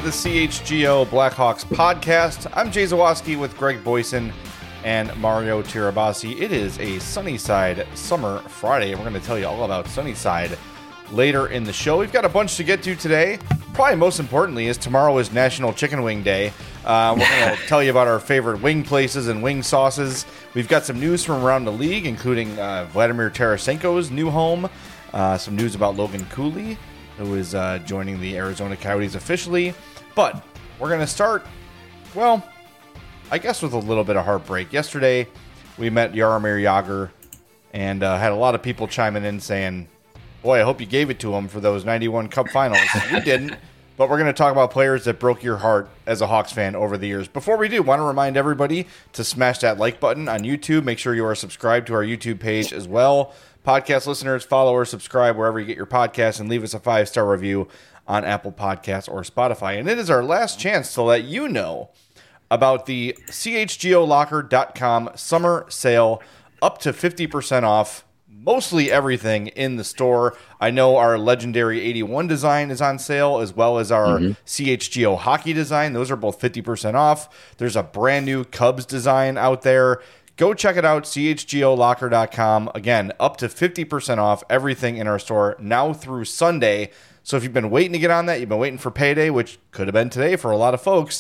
the CHGO Blackhawks podcast. I'm Jay Zawoski with Greg Boyson and Mario Tirabassi. It is a Sunnyside Summer Friday, and we're going to tell you all about Sunnyside later in the show. We've got a bunch to get to today. Probably most importantly is tomorrow is National Chicken Wing Day. We're going to tell you about our favorite wing places and wing sauces. We've got some news from around the league, including Vladimir Tarasenko's new home, some news about Logan Cooley, who is joining the Arizona Coyotes officially. But we're going to start, well, I guess with a little bit of heartbreak. Yesterday, we met Jaromir Jagr and had a lot of people chiming in saying, boy, I hope you gave it to him for those 91 Cup finals. We didn't, but we're going to talk about players that broke your heart as a Hawks fan over the years. Before we do, want to remind everybody to smash that like button on YouTube. Make sure you are subscribed to our YouTube page as well. Podcast listeners, follow or subscribe wherever you get your podcasts, and leave us a 5-star review on Apple Podcasts or Spotify. And it is our last chance to let you know about the CHGOLocker.com summer sale, up to 50% off mostly everything in the store. I know our legendary 81 design is on sale, as well as our CHGO hockey design. Those are both 50% off. There's a brand new Cubs design out there. Go check it out, CHGOLocker.com. Again, up to 50% off everything in our store now through Sunday. So if you've been waiting to get on that, you've been waiting for payday, which could have been today for a lot of folks,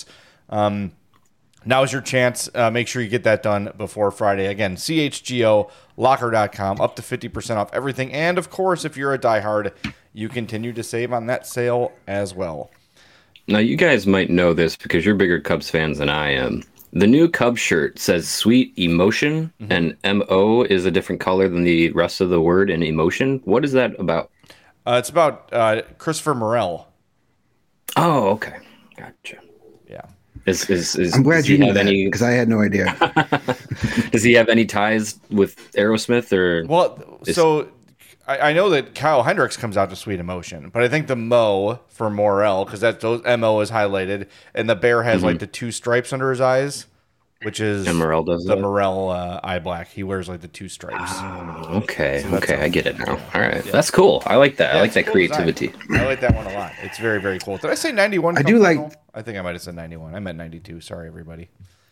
now's your chance. Make sure you get that done before Friday. Again, CHGOLocker.com, up to 50% off everything. And, of course, if you're a diehard, you continue to save on that sale as well. Now, you guys might know this because you're bigger Cubs fans than I am. The new Cubs shirt says Sweet Emotion, and M-O is a different color than the rest of the word in emotion. What is that about? It's about Christopher Morel. Oh, okay. Gotcha. Yeah. I'm glad you knew that, because I had no idea. Does he have any ties with Aerosmith? So I know that Kyle Hendricks comes out to Sweet Emotion, but I think the Mo for Morel, because those MO is highlighted, and the bear has like the two stripes under his eyes, which is Morel does the that? Morel eye black. He wears like the two stripes. Oh, okay. I get it now. All right. Yeah. That's cool. I like that. I like that cool creativity. Design. I like that one a lot. It's very, very cool. Did I say 91? I think I might have said 91. I meant 92. Sorry, everybody.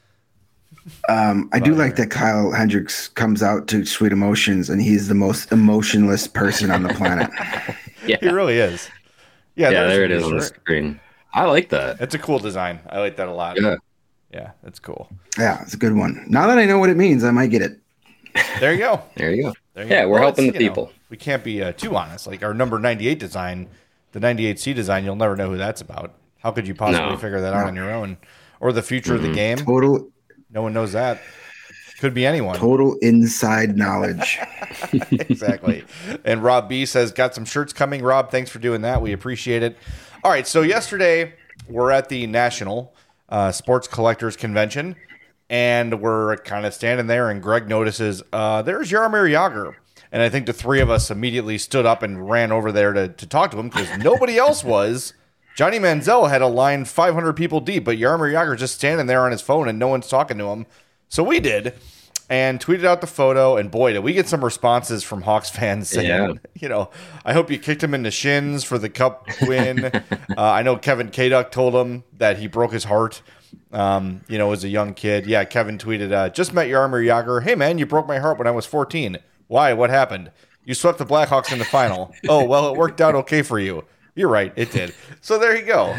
I do like that Kyle Hendricks comes out to Sweet Emotions, and he's the most emotionless person on the planet. Yeah, he really is. Yeah, there it is on the screen. I like that. It's a cool design. I like that a lot. Yeah, that's cool. Yeah, it's a good one. Now that I know what it means, I might get it. There you go. We're helping the people. We can't be too honest. Like our number 98 design, the 98C design, you'll never know who that's about. How could you possibly figure that out on your own? Or the future of the game? No one knows that. Could be anyone. Total inside knowledge. Exactly. And Rob B says, got some shirts coming. Rob, thanks for doing that. We appreciate it. All right, so yesterday we're at the National Sports Collectors Convention, and we're kind of standing there, and Greg notices there's Jaromir Jagr. And I think the three of us immediately stood up and ran over there to talk to him because nobody else was. Johnny Manziel had a line 500 people deep, but Jaromir Jagr just standing there on his phone and no one's talking to him. So we did and tweeted out the photo, and boy, did we get some responses from Hawks fans saying, I hope you kicked him in the shins for the Cup win. I know Kevin Kaduk told him that he broke his heart, as a young kid. Yeah, Kevin tweeted, just met Jaromir Jagr. Hey, man, you broke my heart when I was 14. Why? What happened? You swept the Blackhawks in the final. Oh, well, it worked out okay for you. You're right, it did. So there you go.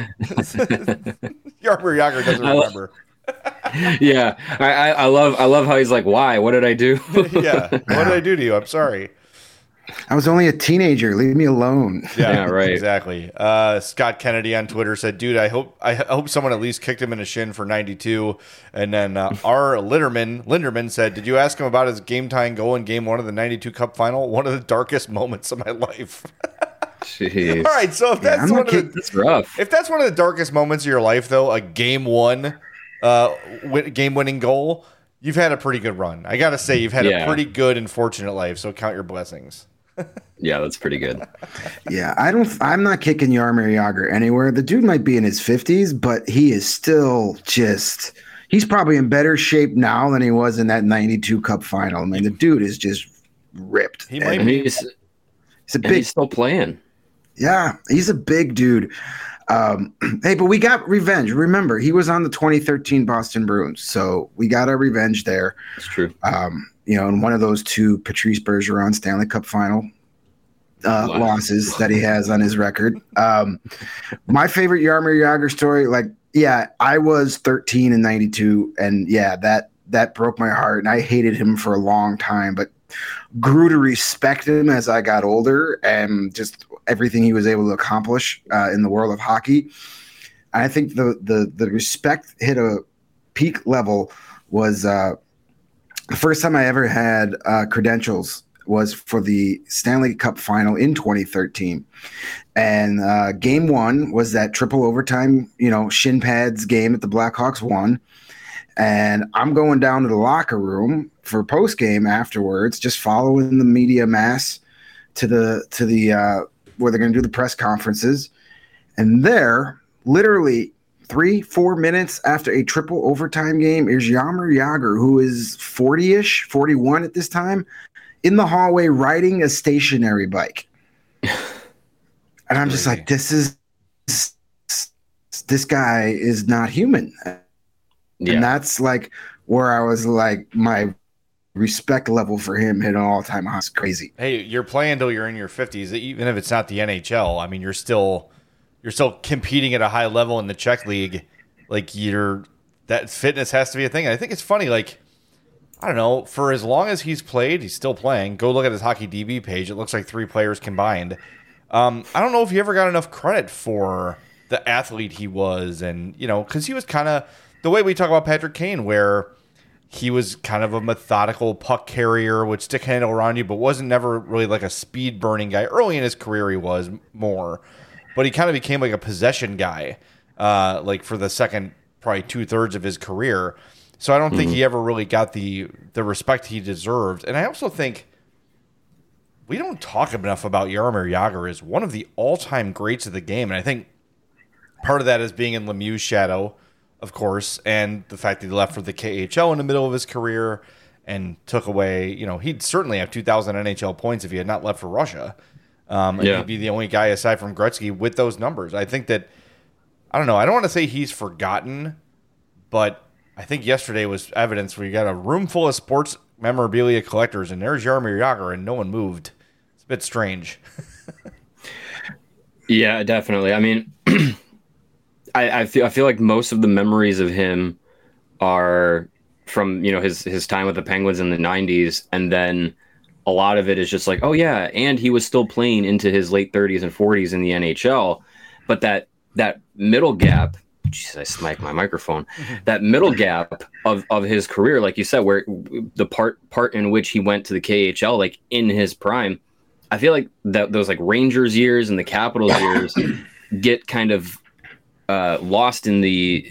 Jaromir Jagr doesn't remember. Yeah, I love how he's like, why? What did I do? Yeah, what did I do to you? I'm sorry. I was only a teenager. Leave me alone. Yeah, right. Exactly. Scott Kennedy on Twitter said, dude, I hope someone at least kicked him in the shin for 92. And then R. Linderman said, did you ask him about his game-tying goal in Game 1 of the 92 Cup final? One of the darkest moments of my life. Jeez. All right, so if that's that's rough. If that's one of the darkest moments of your life, though, a Game 1 game-winning goal, you've had a pretty good run. I got to say, you've had a pretty good and fortunate life, so count your blessings. Yeah, that's pretty good. Yeah, I'm not kicking Jaromir Jagr anywhere. The dude might be in his 50s, but he is still he's probably in better shape now than he was in that 92 Cup final. I mean, the dude is just ripped. He's still playing. Yeah, he's a big dude. Hey, but we got revenge. Remember, he was on the 2013 Boston Bruins, so we got our revenge there. It's true. And one of those two Patrice Bergeron Stanley Cup final losses that he has on his record. My favorite Jaromir Jagr story, I was 13 in 92, and that broke my heart, and I hated him for a long time, but grew to respect him as I got older and just everything he was able to accomplish in the world of hockey. I think the respect hit a peak level was the first time I ever had credentials was for the Stanley Cup final in 2013. And game one was that triple overtime, shin pads game that the Blackhawks won. And I'm going down to the locker room for post game afterwards, just following the media mass to the where they're going to do the press conferences. And there, literally 3-4 minutes after a triple overtime game, is Jaromir Jagr, who is 40-ish, 41 at this time, in the hallway riding a stationary bike. And I'm just like, this guy is not human. Yeah. And that's like where I was like, my respect level for him hit an all-time high. It's crazy. Hey, you're playing until you're in your 50s, even if it's not the NHL. I mean, you're still competing at a high level in the Czech league. Like, that fitness has to be a thing. And I think it's funny, like, I don't know, for as long as he's played, he's still playing. Go look at his Hockey DB page. It looks like 3 players combined. I don't know if he ever got enough credit for the athlete he was. And, because he was kind of the way we talk about Patrick Kane, where he was kind of a methodical puck carrier, would stick handle around you, but wasn't never really like a speed burning guy. Early in his career, he was more, but he kind of became like a possession guy, like for the second, probably 2/3 of his career. So I don't think he ever really got the respect he deserved. And I also think we don't talk enough about Jaromir Jagr as one of the all-time greats of the game. And I think part of that is being in Lemieux's shadow, of course, and the fact that he left for the KHL in the middle of his career and took away, he'd certainly have 2,000 NHL points if he had not left for Russia. And he'd be the only guy aside from Gretzky with those numbers. I think that, I don't know, I don't want to say he's forgotten, but I think yesterday was evidence where you got a room full of sports memorabilia collectors, and there's Jaromir Jagr, and no one moved. It's a bit strange. Yeah, definitely. I mean, I feel like most of the memories of him are from his time with the Penguins in the 90s, and then a lot of it is just like, oh yeah, and he was still playing into his late 30s and 40s in the NHL, but that middle gap. Jeez, I smiked my microphone. That middle gap of his career, like you said, where the part in which he went to the KHL, like in his prime, I feel like that those like Rangers years and the Capitals years get kind of lost in the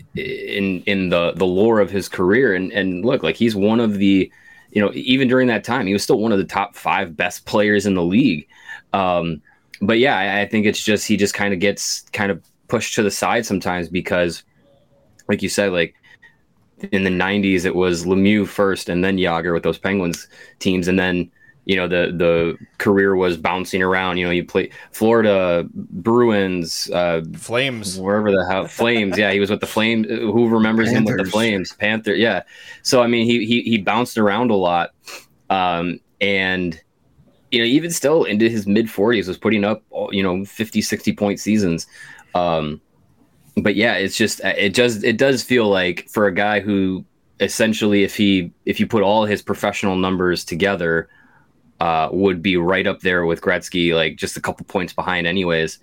lore of his career. And look, like he's one of the, even during that time, he was still one of the top 5 best players in the league. But yeah, I think it's just he just kind of gets kind of pushed to the side sometimes because, like you said, like in the 90s, it was Lemieux first and then Jagr with those Penguins teams. And then, the career was bouncing around. You play Florida, Bruins, Flames, wherever the hell, Flames. Yeah, he was with the Flames. Who remembers Panthers. Him with the Flames? Panther. Yeah. So, I mean, he bounced around a lot. And, even still into his mid 40s was putting up, 50, 60 point seasons. But yeah, it's just, it does feel like for a guy who essentially, if you put all his professional numbers together, would be right up there with Gretzky, like just a couple points behind anyways.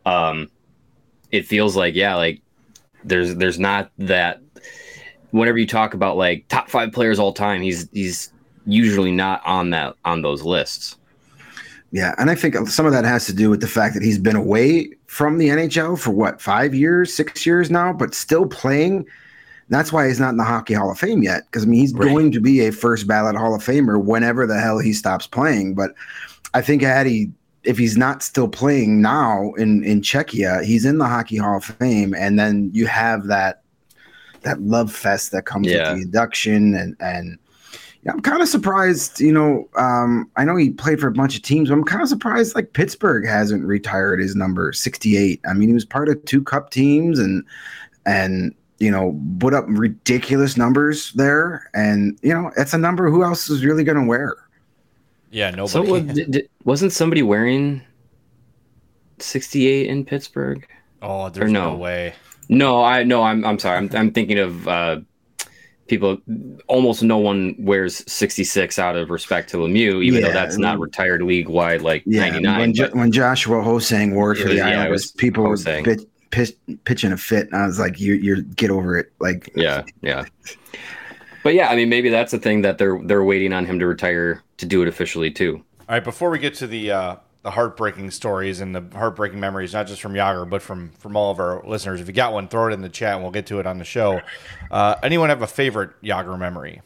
It feels like, yeah, like there's not that, whenever you talk about like top 5 players all time, he's usually not on those lists. Yeah, and I think some of that has to do with the fact that he's been away from the NHL for 5 years, 6 years now, but still playing. That's why he's not in the Hockey Hall of Fame yet, because he's going to be a first ballot Hall of Famer whenever the hell he stops playing. But I think if he's not still playing now in Czechia, he's in the Hockey Hall of Fame, and then you have that love fest that comes with the induction and Yeah, I'm kind of surprised. I know he played for a bunch of teams, but I'm kind of surprised like Pittsburgh hasn't retired his number 68. I mean, he was part of 2 cup teams and put up ridiculous numbers there, and it's a number who else is really going to wear? Yeah, nobody. So wasn't somebody wearing 68 in Pittsburgh? Oh, there's no way. No, I'm sorry. I'm thinking of people. Almost no one wears 66 out of respect to Lemieux, even though that's not retired league wide like 99. When Joshua Hosang wore it for the Islanders, people were pitching a fit, and I was like, "You're get over it." Like, yeah. But yeah, I mean, maybe that's the thing that they're waiting on him to retire to do it officially too. All right, before we get to the heartbreaking stories and the heartbreaking memories, not just from Jágr, but from all of our listeners. If you got one, throw it in the chat and we'll get to it on the show. Anyone have a favorite Jágr memory?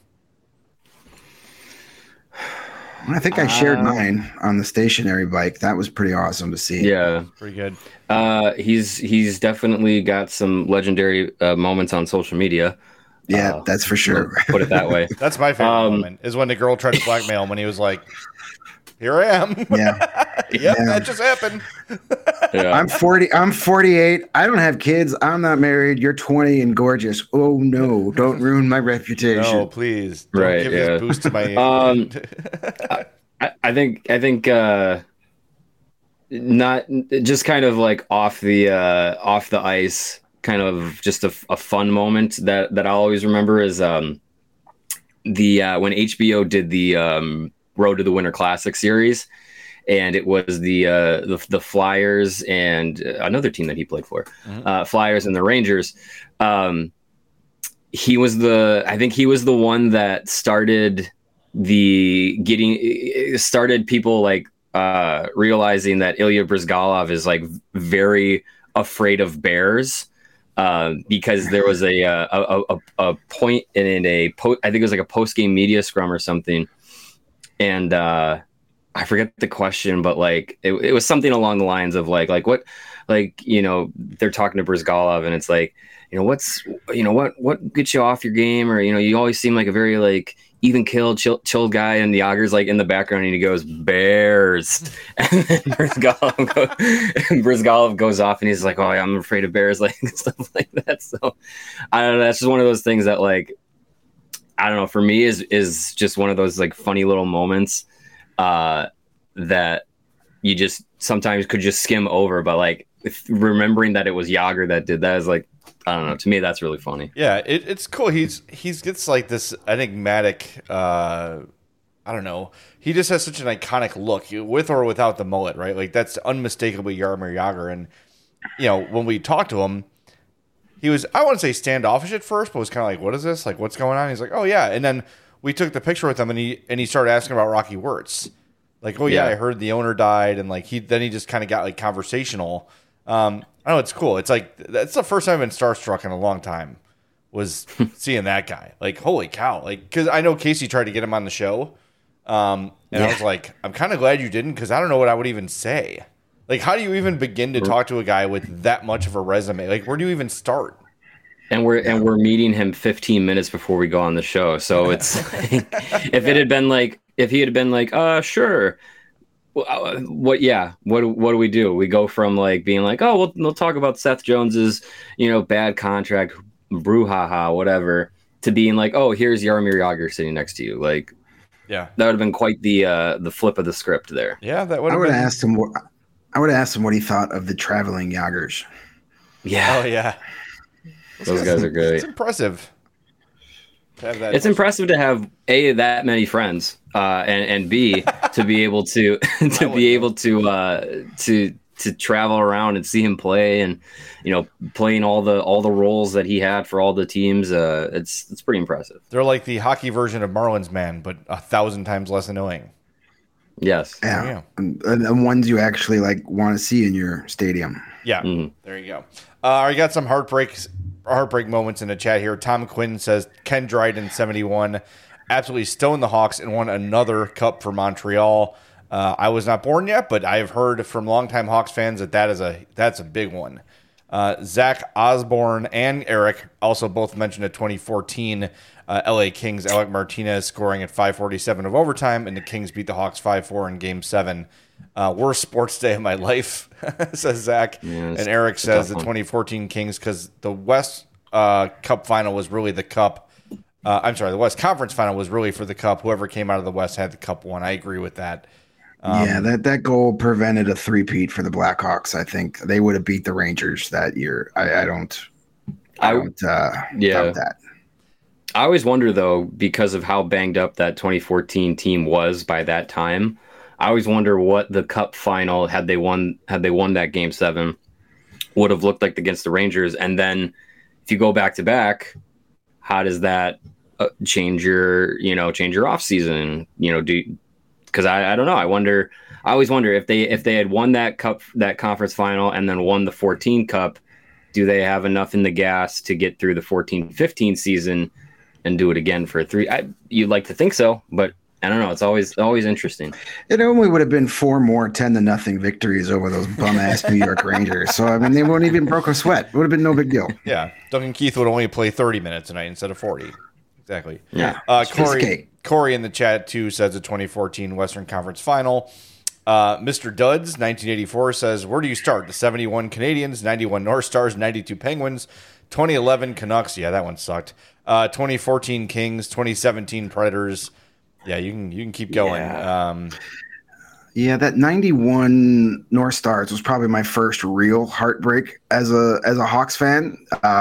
I think I shared mine on the stationary bike. That was pretty awesome to see. Yeah. Pretty good. He's definitely got some legendary moments on social media. Yeah, that's for sure. Put it that way. That's my favorite moment, is when the girl tried to blackmail him when he was like, "Here I am." Yeah. That just happened. Yeah. I'm 48. I don't have kids. I'm not married. You're 20 and gorgeous. Oh no, don't ruin my reputation. No, please. Don't give this boost to my I think not just kind of like off the ice, kind of just a fun moment that I always remember is when HBO did the Road to the Winter Classic series, and it was the Flyers and another team that he played for, Flyers and the Rangers. He was the one that started people like realizing that Ilya Bryzgalov is like very afraid of bears. Because there was a point in I think it was like a post-game media scrum or something, and I forget the question, but like it was something along the lines of like what, like they're talking to Bryzgalov, and it's like what gets you off your game, or you always seem like a very like even killed, chill guy, and Jágr's like in the background, and he goes, "Bears," and then Bryzgalov goes off, and he's like, "Oh, yeah, I'm afraid of bears," like stuff like that. So I don't know. That's just one of those things that, like, I don't know. For me, is just one of those like funny little moments that you just sometimes could just skim over, but like remembering that it was Jágr that did that is like, I don't know. To me, that's really funny. Yeah, it's cool. He gets like this enigmatic. I don't know. He just has such an iconic look, with or without the mullet, right? Like that's unmistakably Jaromir Jágr. And when we talked to him, he was, I wouldn't say standoffish at first, but was kind of like, "What is this? Like, what's going on?" He's like, "Oh yeah." And then we took the picture with him, and he started asking about Rocky Wirtz. Like, "Oh yeah, I heard the owner died," and like he just kind of got like conversational. I know, it's cool. It's like that's the first time I've been starstruck in a long time, was seeing that guy. Like, holy cow! Like, because I know Casey tried to get him on the show, and I was like, I'm kind of glad you didn't, because I don't know what I would even say. Like, how do you even begin to talk to a guy with that much of a resume? Like, where do you even start? And we're meeting him 15 minutes before we go on the show. So it's like, if he had been like, sure. What do we do? We go from like being like, "Oh, we'll talk about Seth Jones's, bad contract, brouhaha, whatever," to being like, "Oh, here's Jaromir Jágr sitting next to you." Like, yeah, that would have been quite the flip of the script there. Yeah, that would. I would have asked him. I would have asked him what he thought of the traveling Jágrs. Yeah. Oh yeah. Those guys are good. It's impressive. It's impressive to have that many friends, and B, to be able to to travel around and see him play, and playing all the roles that he had for all the teams. It's pretty impressive. They're like the hockey version of Marlins Man, but 1,000 times less annoying. Yes. Yeah. And ones you actually like want to see in your stadium. Yeah. Mm-hmm. There you go. I got some heartbreak moments in the chat here. Tom Quinn says Ken Dryden 71 absolutely stoned the Hawks and won another cup for Montreal. I was not born yet, but I've heard from longtime Hawks fans that's a big one. Zach Osborne and Eric also both mentioned a 2014 LA Kings. Alec Martinez scoring at 5:47 of overtime, and the Kings beat the Hawks 5-4 in Game 7. Worst sports day of my life, says Zach. Yeah, and Eric says the 2014 Kings, because the West Cup final was really the Cup. The West Conference final was really for the Cup. Whoever came out of the West had the Cup won. I agree with that. That goal prevented a three-peat for the Blackhawks. I think they would have beat the Rangers that year. I don't doubt that. I always wonder, though, because of how banged up that 2014 team was by that time, I always wonder what the Cup final, had they won that Game 7, would have looked like against the Rangers. And then if you go back to back, how does that change your off season? Because I don't know. I always wonder if they had won that conference final and then won the 14 Cup, do they have enough in the gas to get through the 14-15 season and do it again for a 3? You'd like to think so, but I don't know. It's always interesting. It only would have been 4 more 10-0 victories over those bum ass New York Rangers. So I mean, they wouldn't even broke a sweat. It would have been no big deal. Yeah, Duncan Keith would only play 30 minutes tonight instead of 40. Exactly. Yeah. Corey in the chat too says the 2014 Western Conference Final. Mr. Duds 1984 says, where do you start? The 71 Canadians, 91 North Stars, 92 Penguins, 2011 Canucks. Yeah, that one sucked. 2014 Kings, 2017 Predators. Yeah, you can keep going. Yeah. That 91 North Stars was probably my first real heartbreak as a Hawks fan.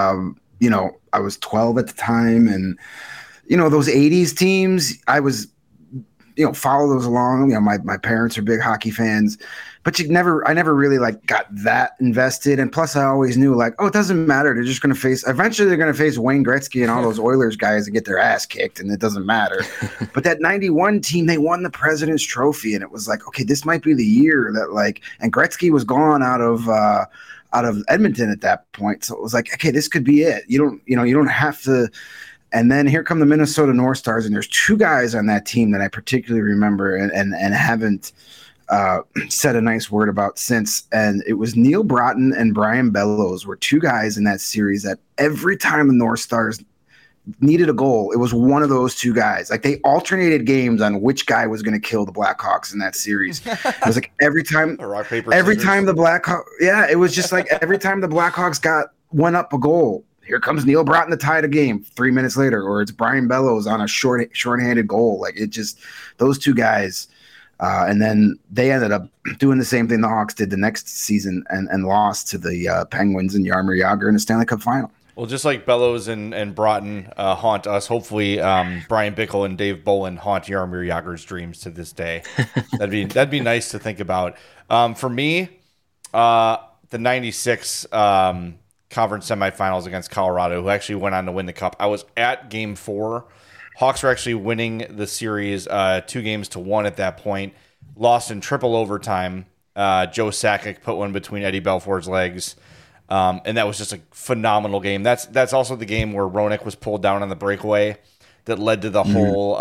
I was 12 at the time, and those 80s teams, I was follow those along. My parents are big hockey fans, but I never really got that invested. And plus I always knew it doesn't matter. They're just going to eventually they're going to face Wayne Gretzky and all those Oilers guys and get their ass kicked, and it doesn't matter. But that 91 team, they won the President's Trophy, and it was okay, this might be the year that and Gretzky was gone out of Edmonton at that point. So it was okay, this could be it. You don't have to. And then here come the Minnesota North Stars, and there's 2 guys on that team that I particularly remember and haven't said a nice word about since. And it was Neil Broughton and Brian Bellows were 2 guys in that series that every time the North Stars needed a goal, it was one of those 2 guys. They alternated games on which guy was going to kill the Blackhawks in that series. It was every time the Blackhawks, it was just every time the Blackhawks went up a goal, here comes Neil Broughton to tie the game 3 minutes later, or it's Brian Bellows on a shorthanded goal. Those 2 guys. And then they ended up doing the same thing the Hawks did the next season and lost to the Penguins and Jaromir Jagr in the Stanley Cup final. Well, just like Bellows and Broughton haunt us, hopefully Brian Bickle and Dave Bolin haunt Jaromir Jagr's dreams to this day. That'd be nice to think about. For me, the 96 conference semifinals against Colorado, who actually went on to win the Cup. I was at Game 4. Hawks were actually winning the series 2-1 at that point. Lost in triple overtime. Joe Sakic put one between Eddie Belfour's legs. And that was just a phenomenal game. That's also the game where Roenick was pulled down on the breakaway that led to the whole,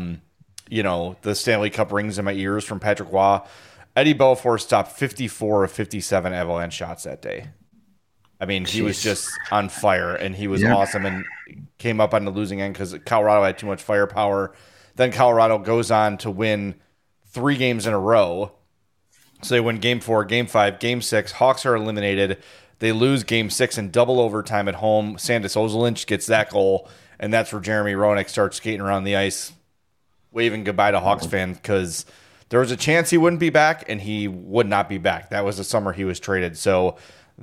the Stanley Cup rings in my ears from Patrick Waugh. Eddie Belfour stopped 54 of 57 Avalanche shots that day. I mean, he was just on fire, and he was awesome, and came up on the losing end because Colorado had too much firepower. Then Colorado goes on to win 3 games in a row. So they win Game 4, Game 5, Game 6. Hawks are eliminated. They lose Game 6 in double overtime at home. Sandis Ozolinsh gets that goal, and that's where Jeremy Roenick starts skating around the ice, waving goodbye to Hawks fans, because there was a chance he wouldn't be back, and he would not be back. That was the summer he was traded. So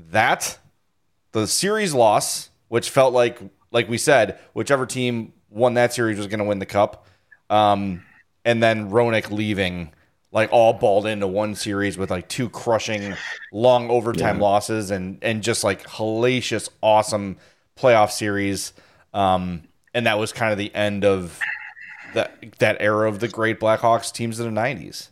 the series loss, which felt like we said, whichever team won that series was going to win the Cup. And then Roenick leaving, all balled into one series with 2 crushing long overtime losses and just hellacious, awesome playoff series. And that was kind of the end of that era of the great Blackhawks teams of the 90s.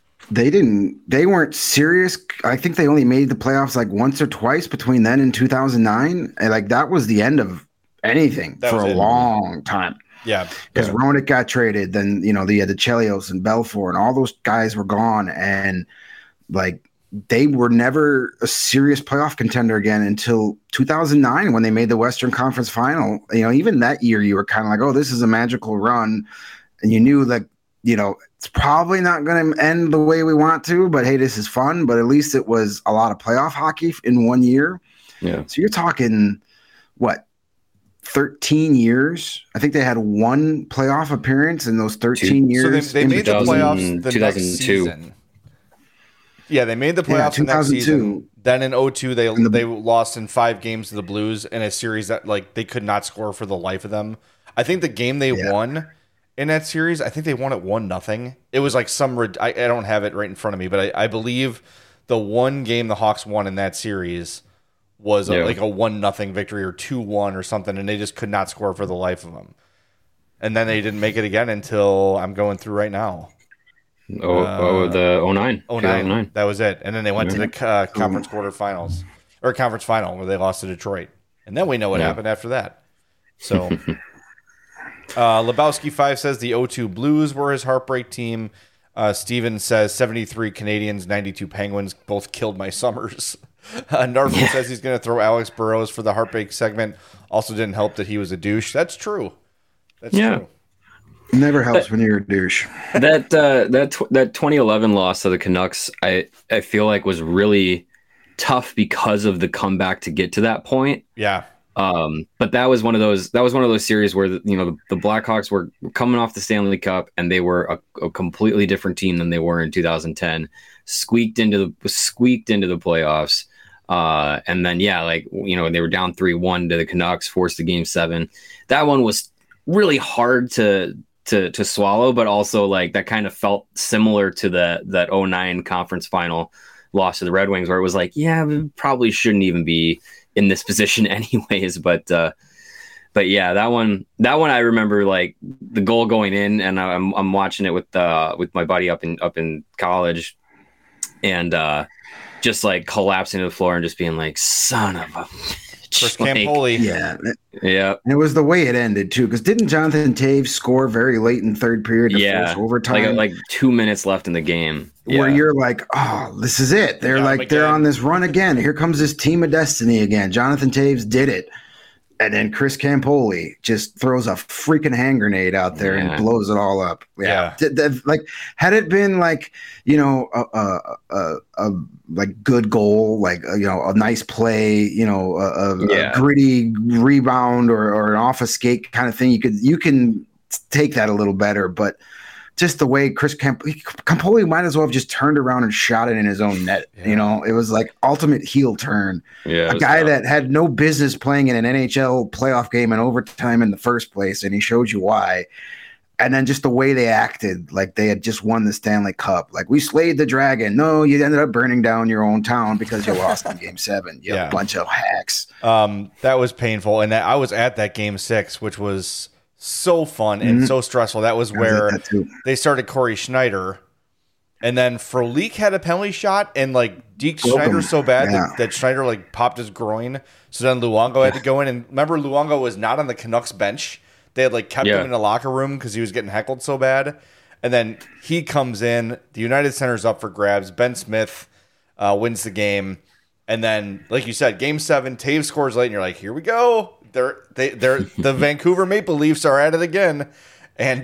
They weren't serious. I think they only made the playoffs once or twice between then and 2009. And that was the end of anything for a long time. Yeah. Because Roenick got traded. Then, they had the Chelios and Belfour and all those guys were gone. And they were never a serious playoff contender again until 2009 when they made the Western Conference Final. Even that year you were kind of like, oh, this is a magical run. And you knew that, it's probably not going to end the way we want to, but hey, this is fun. But at least it was a lot of playoff hockey in 1 year. Yeah. So you're talking, 13 years? I think they had one playoff appearance in those 13 years. So they made the playoffs the 2002. next season. Yeah, they made the playoffs the next season. Then in 2002, they lost in 5 games to the Blues in a series that they could not score for the life of them. I think the game they won in that series, I think they won it 1-0. It was like I don't have it right in front of me, but I believe the one game the Hawks won in that series was like a 1-0 victory or 2-1 or something, and they just could not score for the life of them. And then they didn't make it again until I'm going through right now. The 09. 09. That was it. And then they went to the conference quarterfinals or conference final where they lost to Detroit. And then we know what happened after that. So Lebowski 5 says the 0-2 Blues were his heartbreak team. Steven says 73 Canadians, 92 Penguins, both killed my summers. Narvin says he's going to throw Alex Burrows for the heartbreak segment. Also didn't help that he was a douche. That's true. That's true. Never helps when you're a douche. That 2011 loss to the Canucks, I feel like was really tough because of the comeback to get to that point. Yeah. But that was one of those series where the Blackhawks were coming off the Stanley Cup and they were a completely different team than they were in 2010. Squeaked into the playoffs. And then they were down 3-1 to the Canucks, forced the game 7. That one was really hard to swallow, but also that kind of felt similar to that 09 conference final loss to the Red Wings, where it was we probably shouldn't even be in this position anyways. But yeah, that one I remember the goal going in, and I'm watching it with my buddy up in college, and just collapsing to the floor and just being son of a Chris Campoli. Yeah. And it was the way it ended too, because didn't Jonathan Taves score very late in third period to force overtime? Like 2 minutes left in the game. Where you're oh, this is it. They're on this run again. Here comes this team of destiny again. Jonathan Taves did it. And then Chris Campoli just throws a freaking hand grenade out there and blows it all up. Yeah. Had it been a good goal, a nice play, a gritty rebound or an off a skate kind of thing, you can take that a little better. But just the way Chris Campoli might as well have just turned around and shot it in his own net. Yeah. It was ultimate heel turn. Yeah, a guy that had no business playing in an NHL playoff game in overtime in the first place, and he showed you why. And then just the way they acted, they had just won the Stanley Cup. We slayed the dragon. No, you ended up burning down your own town because you lost in Game 7. You bunch of hacks. That was painful. And I was at that Game 6, which was so fun and so stressful. That was where they started Corey Schneider, and then Frolik had a penalty shot, and deked Schneider so bad that Schneider popped his groin. So then Luongo had to go in, and remember Luongo was not on the Canucks bench. They had kept him in the locker room because he was getting heckled so bad. And then he comes in. The United Center's up for grabs. Ben Smith wins the game, and then like you said, Game 7, Taves scores late, and you're here we go. They're the Vancouver Maple Leafs are at it again, and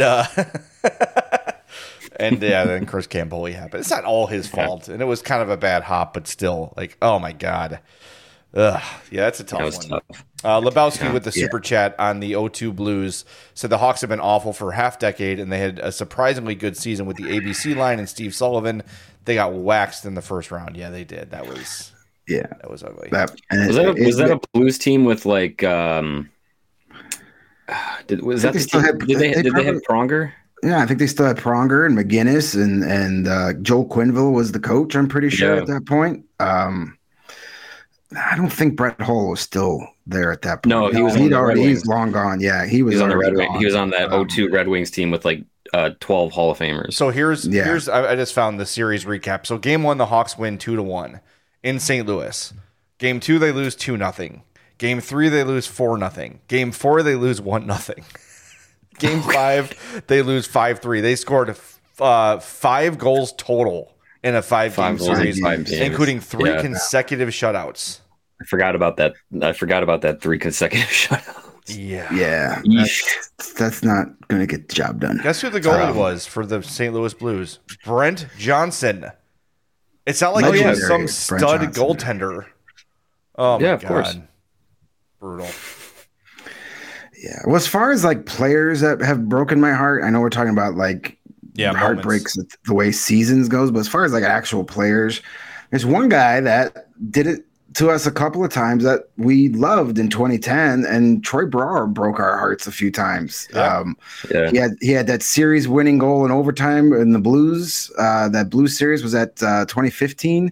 then Chris Campoli happened. It's not all his fault, and it was kind of a bad hop, but still, oh my god, that's a tough one. Tough. Lebowski with the super chat on the 0-2 Blues said the Hawks have been awful for half decade, and they had a surprisingly good season with the ABC line and Steve Sullivan. They got waxed in the first round. Yeah, they did. That was. Yeah, that was ugly. Was that a Blues team with did they have Pronger? Yeah, I think they still had Pronger and McGinnis and Joel Quenneville was the coach. I'm pretty sure at that point. I don't think Brett Hull was still there at that point. No, he's long gone. Yeah, he was on the Red Wings. He was on that 0-2 Red Wings team with 12 Hall of Famers. So here's I just found the series recap. So Game 1, the Hawks win 2-1. In St. Louis. Game 2, they lose 2-0. Game 3, they lose 4-0. Game 4, they lose 1-0. Game 5, they lose 5-3. They scored 5 goals total in a 5-game series, games. including 3 consecutive shutouts. I forgot about that. 3 consecutive shutouts. Yeah. That's not going to get the job done. Guess who the goalie was for the St. Louis Blues? Brent Johnson. It's not like he was some stud goaltender. Oh, my God. Of course. Brutal. Yeah. Well, as far as like players that have broken my heart, I know we're talking about like heartbreaks the way seasons goes, but as far as like actual players, there's one guy that did it to us a couple of times that we loved in 2010, and Troy Brouwer broke our hearts a few times. He had that series winning goal in overtime in the Blues. That Blues series was at 2015.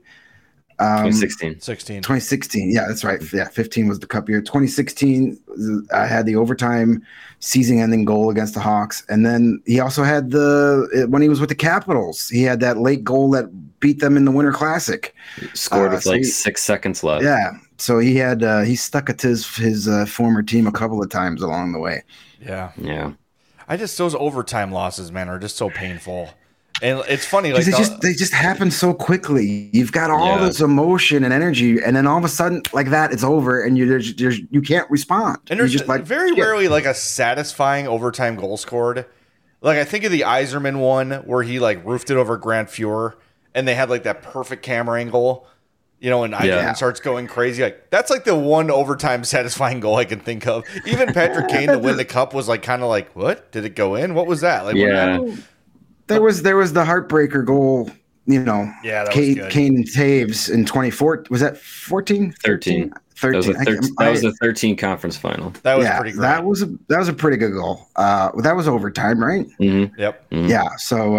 2016. Yeah, that's right. Yeah, 15 was the cup year. 2016, I had the overtime season-ending goal against the Hawks, and then he also had when he was with the Capitals, he had that late goal that beat them in the Winter Classic. He scored with 6 seconds left. Yeah, so he stuck it to his former team a couple of times along the way. Yeah. Those overtime losses, man, are just so painful. And it's funny, like they just happen so quickly. You've got all this emotion and energy, and then all of a sudden, like that, it's over, and you can't respond. And there's just like very rarely like a satisfying overtime goal scored. Like I think of the Yzerman one where he like roofed it over Grant Fuhr, and they had like that perfect camera angle, and Yzerman starts going crazy. Like that's like the one overtime satisfying goal I can think of. Even Patrick Kane to win the cup was like kind of like, what? Did it go in? What was that? Like There was the heartbreaker goal, Kane and Taves in 2014. Was that 14? 13. 13. That was the 13 conference final. That was pretty great. That was a pretty good goal. That was overtime, right? Mm-hmm. Yep. Mm-hmm. Yeah. So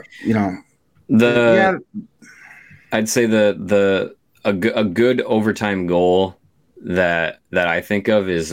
I'd say a good overtime goal that I think of is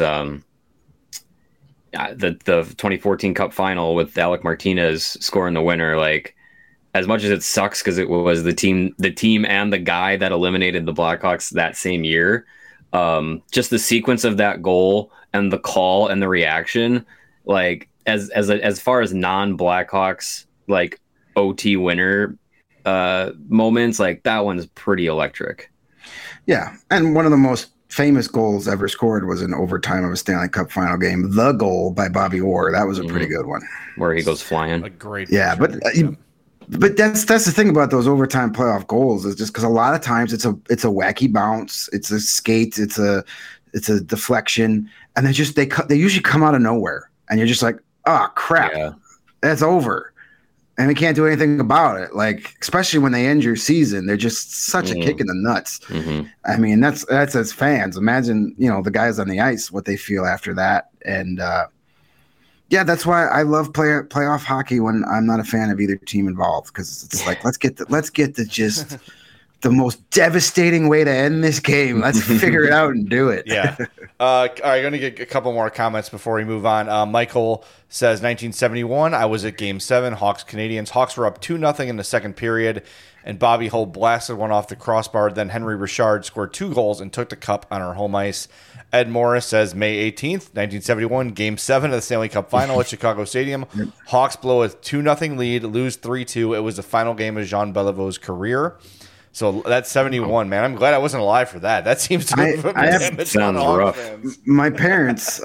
the 2014 Cup final with Alec Martinez scoring the winner. Like, as much as it sucks because it was the team and the guy that eliminated the Blackhawks that same year, just the sequence of that goal and the call and the reaction, like as far as non-Blackhawks like OT winner moments, like that one's pretty electric. Yeah, and one of the most famous goals ever scored was in overtime of a Stanley Cup final game. The goal by Bobby Orr. That was a pretty good one. Where he goes flying. A great. Yeah, but that's the thing about those overtime playoff goals is just because a lot of times it's a wacky bounce, it's a skate, it's a deflection, and they usually come out of nowhere, and you're just like, oh crap, that's over. And we can't do anything about it. Like, especially when they end your season, they're just such a kick in the nuts. Mm-hmm. I mean, that's as fans. Imagine, the guys on the ice, what they feel after that. And that's why I love playoff hockey when I'm not a fan of either team involved, because it's like let's get the just the most devastating way to end this game. Let's figure it out and do it. Yeah. All right, going to get a couple more comments before we move on. Michael says 1971, I was at Game 7, Hawks Canadiens. Hawks were up 2-0 in the second period, and Bobby Hull blasted one off the crossbar. Then Henry Richard scored 2 goals and took the cup on our home ice. Ed Morris says May 18th, 1971, Game 7 of the Stanley Cup Final at Chicago Stadium. Hawks blow a 2-0 lead, lose 3-2. It was the final game of Jean Beliveau's career. So that's 71, man. I'm glad I wasn't alive for that. That seems to have sounds rough. My parents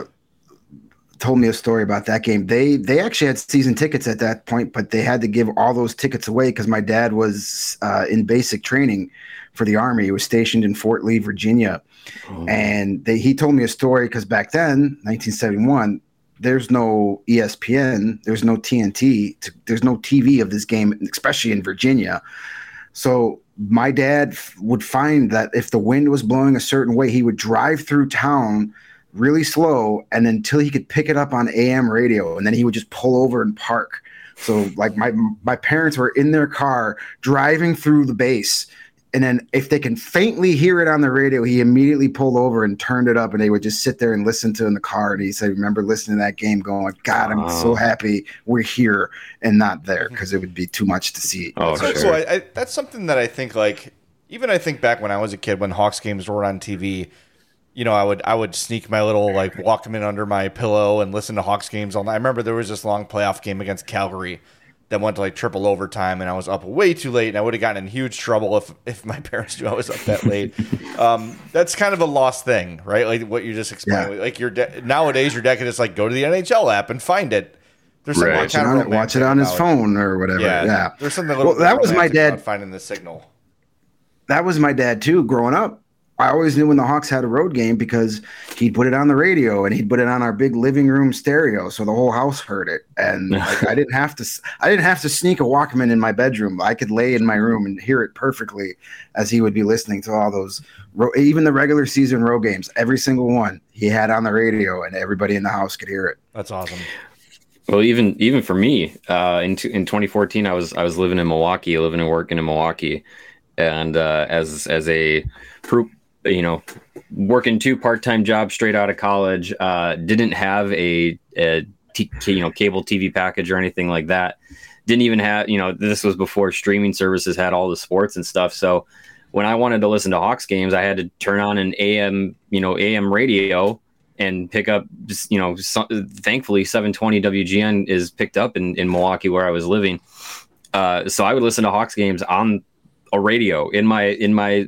told me a story about that game. They actually had season tickets at that point, but they had to give all those tickets away because my dad was in basic training for the Army. He was stationed in Fort Lee, Virginia. And he told me a story because back then, 1971, there's no ESPN, there's no TNT, there's no TV of this game, especially in Virginia. So my dad would find that if the wind was blowing a certain way, he would drive through town really slow and until he could pick it up on AM radio, and then he would just pull over and park. So like my parents were in their car driving through the base, and then if they can faintly hear it on the radio, he immediately pulled over and turned it up, and they would just sit there and listen to it in the car. And he said, remember listening to that game going, God, I'm so happy we're here and not there, because it would be too much to see. Oh, sure. So that's something that I think, like, even I think back when I was a kid, when Hawks games were on TV, I would sneak my little like Walkman under my pillow and listen to Hawks games all night. I remember there was this long playoff game against Calgary that went to like triple overtime, and I was up way too late, and I would have gotten in huge trouble if my parents knew I was up that late. That's kind of a lost thing, right? Like what you just explained. Yeah. Like nowadays, your dad can just like go to the NHL app and find it. There's Right. something Watch it on his phone or whatever. Yeah. There's something a little Well, that was my romantic dad. about finding the signal. That was my dad too. Growing up, I always knew when the Hawks had a road game because he'd put it on the radio and he'd put it on our big living room stereo, so the whole house heard it. And like, I didn't have to sneak a Walkman in my bedroom. I could lay in my room and hear it perfectly as he would be listening to all those, even the regular season road games. Every single one he had on the radio, and everybody in the house could hear it. That's awesome. Well, even for me, in 2014, I was living in Milwaukee, living and working in Milwaukee, and as a working 2 part-time jobs straight out of college, didn't have a cable TV package or anything like that. Didn't even have, this was before streaming services had all the sports and stuff. So when I wanted to listen to Hawks games, I had to turn on an AM radio and pick up, thankfully 720 WGN is picked up in Milwaukee where I was living. So I would listen to Hawks games on a radio in my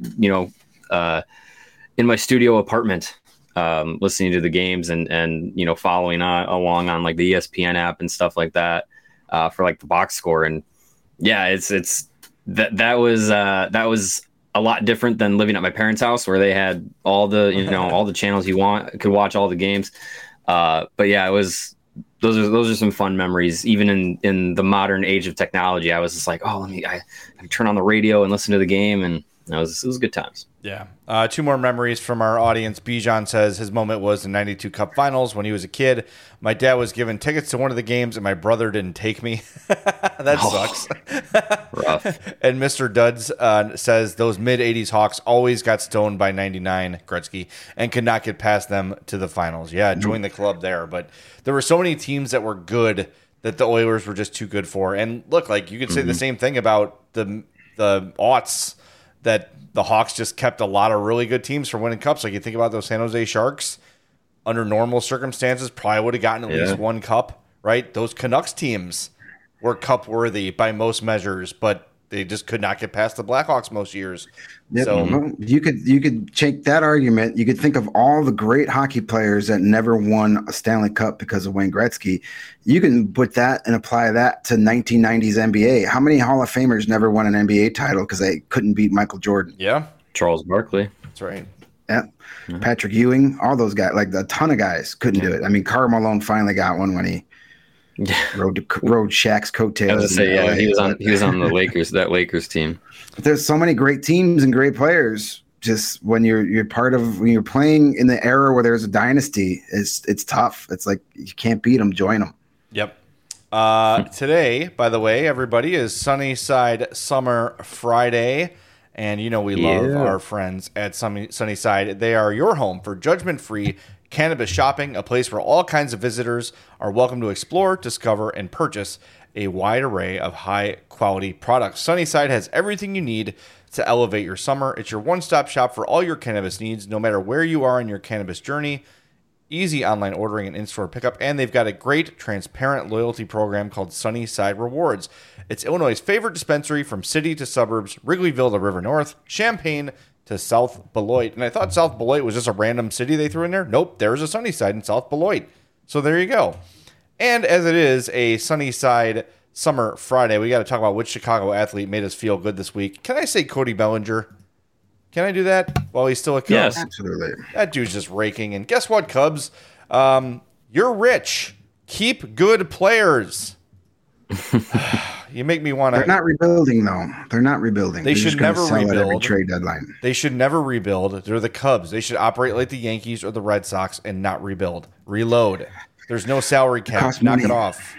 studio apartment, listening to the games and following along on like the ESPN app and stuff like that, for like the box score. And yeah, that was a lot different than living at my parents' house where they had all the all the channels you could watch all the games. But yeah, those are some fun memories. Even in the modern age of technology, I was just like, I turn on the radio and listen to the game, and it was good times. Yeah. 2 more memories from our audience. Bijan says his moment was the 92 Cup Finals when he was a kid. My dad was given tickets to one of the games, and my brother didn't take me. That sucks. Rough. And Mr. Duds says those mid-'80s Hawks always got stoned by 99 Gretzky and could not get past them to the finals. Yeah, join the club there. But there were so many teams that were good that the Oilers were just too good for. And look, like you could say the same thing about the aughts, that the Hawks just kept a lot of really good teams from winning cups. Like you think about those San Jose Sharks, under normal circumstances, probably would have gotten at least 1 cup, right? Those Canucks teams were cup worthy by most measures, but they just could not get past the Blackhawks most years. Yep. So Well, you could take that argument. You could think of all the great hockey players that never won a Stanley Cup because of Wayne Gretzky. You can put that and apply that to 1990s NBA. How many Hall of Famers never won an NBA title because they couldn't beat Michael Jordan? yeah, Charles Barkley. that's right. Yeah. Patrick Ewing, all those guys, like a ton of guys couldn't do it. I mean, Karl Malone finally got one when he rode Shaq's coattails. I was gonna say, he was on the Lakers team. But there's so many great teams and great players. Just when you're playing in the era where there's a dynasty, it's tough. It's like you can't beat them, join them. Yep. Today, by the way, everybody, is Sunnyside Summer Friday. And we love our friends at Sunnyside. They are your home for judgment-free cannabis shopping, a place where all kinds of visitors are welcome to explore, discover, and purchase a wide array of high-quality products. Sunnyside has everything you need to elevate your summer. It's your one-stop shop for all your cannabis needs, no matter where you are in your cannabis journey. Easy online ordering and in-store pickup, and they've got a great transparent loyalty program called Sunnyside Rewards. It's Illinois' favorite dispensary from city to suburbs, Wrigleyville to River North, Champaign to South Beloit. And I thought South Beloit was just a random city they threw in there. Nope, there's a Sunnyside in South Beloit. So there you go. And as it is a Sunnyside Summer Friday, we got to talk about which Chicago athlete made us feel good this week. Can I say Cody Bellinger? Can I do that while he's still a Cubs? Yes. Absolutely. That dude's just raking. And guess what, Cubs? You're rich. Keep good players. You make me want to. They're not rebuilding, though. They're not rebuilding. They They're should just gonna never sell at every rebuild. trade deadline. They should never rebuild. They're the Cubs. They should operate like the Yankees or the Red Sox and not rebuild. Reload. There's no salary cap. costs Knock money. it off.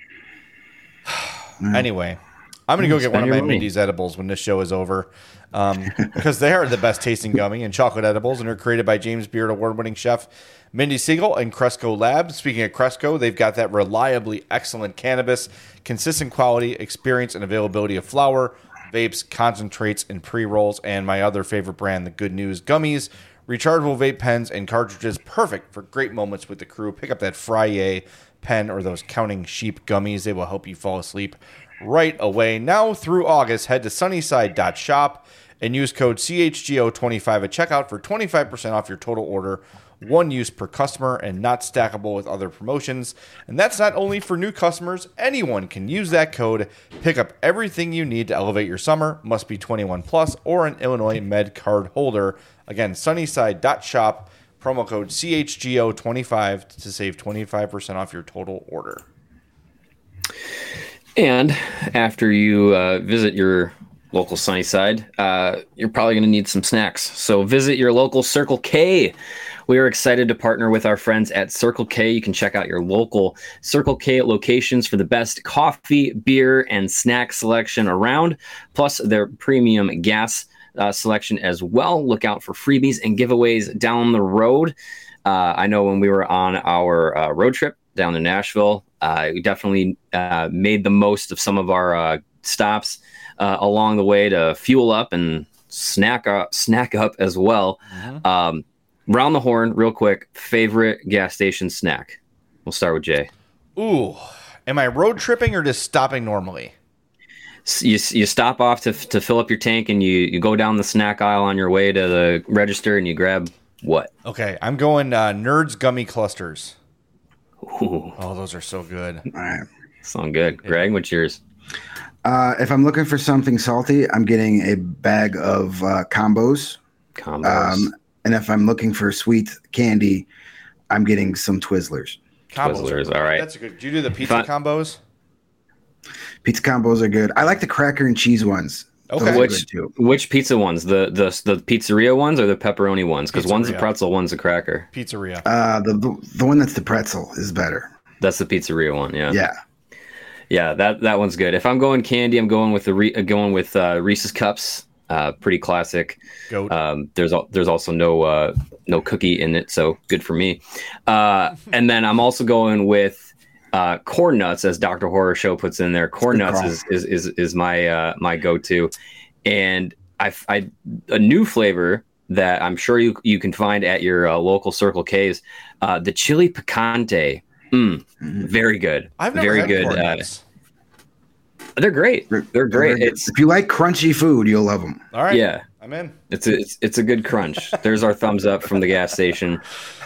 Anyway, I'm going to go get one of Spend my your money. Mindy's edibles when this show is over. Because they are the best tasting gummy and chocolate edibles, and are created by James Beard award-winning chef Mindy Siegel and Cresco Labs. Speaking of Cresco, they've got that reliably excellent cannabis, consistent quality, experience, and availability of flower, vapes, concentrates, and pre-rolls, and my other favorite brand, the Good News Gummies. Rechargeable vape pens and cartridges, perfect for great moments with the crew. Pick up that Frye pen or those Counting Sheep gummies. They will help you fall asleep right away. Now through August, head to sunnyside.shop and use code CHGO25 at checkout for 25% off your total order. One use per customer and not stackable with other promotions. And that's not only for new customers. Anyone can use that code. Pick up everything you need to elevate your summer. Must be 21 plus or an Illinois Med card holder. Again, sunnyside.shop, promo code CHGO25 to save 25% off your total order. And after you visit your local Sunnyside, you're probably going to need some snacks. So visit your local Circle K. We are excited to partner with our friends at Circle K. You can check out your local Circle K locations for the best coffee, beer, and snack selection around, plus their premium gas selection as well. Look out for freebies and giveaways down the road. I know when we were on our road trip down to Nashville, we definitely made the most of some of our stops along the way to fuel up and snack up as well. Mm-hmm. Round the horn, real quick. Favorite gas station snack? We'll start with Jay. Ooh, am I road tripping or just stopping normally? You stop off to fill up your tank, and you go down the snack aisle on your way to the register, and you grab what? Okay, I'm going Nerds Gummy Clusters. Ooh. Oh, those are so good. All right. Sound good. Greg, what's yours? If I'm looking for something salty, I'm getting a bag of combos. And if I'm looking for sweet candy, I'm getting some Twizzlers. Twizzlers, all right. That's good. Do you do the pizza combos? Pizza combos are good. I like the cracker and cheese ones. Okay. Which pizza ones? The pizzeria ones or the pepperoni ones? Because one's a pretzel, one's a cracker. Pizzeria. The one that's the pretzel is better. That's the pizzeria one. Yeah. Yeah. Yeah. That one's good. If I'm going candy, I'm going with Reese's Cups. Pretty classic. Goat. There's also no cookie in it, so good for me. And then I'm also going with corn nuts, as Dr. Horror Show puts in there. Corn nuts is my go-to, and I a new flavor that I'm sure you can find at your local Circle K's, the chili picante. Very good. I've never had corn nuts. They're great. They're great. If you like crunchy food, you'll love them. All right. Yeah. I'm in. It's a good crunch. There's our thumbs up from the gas station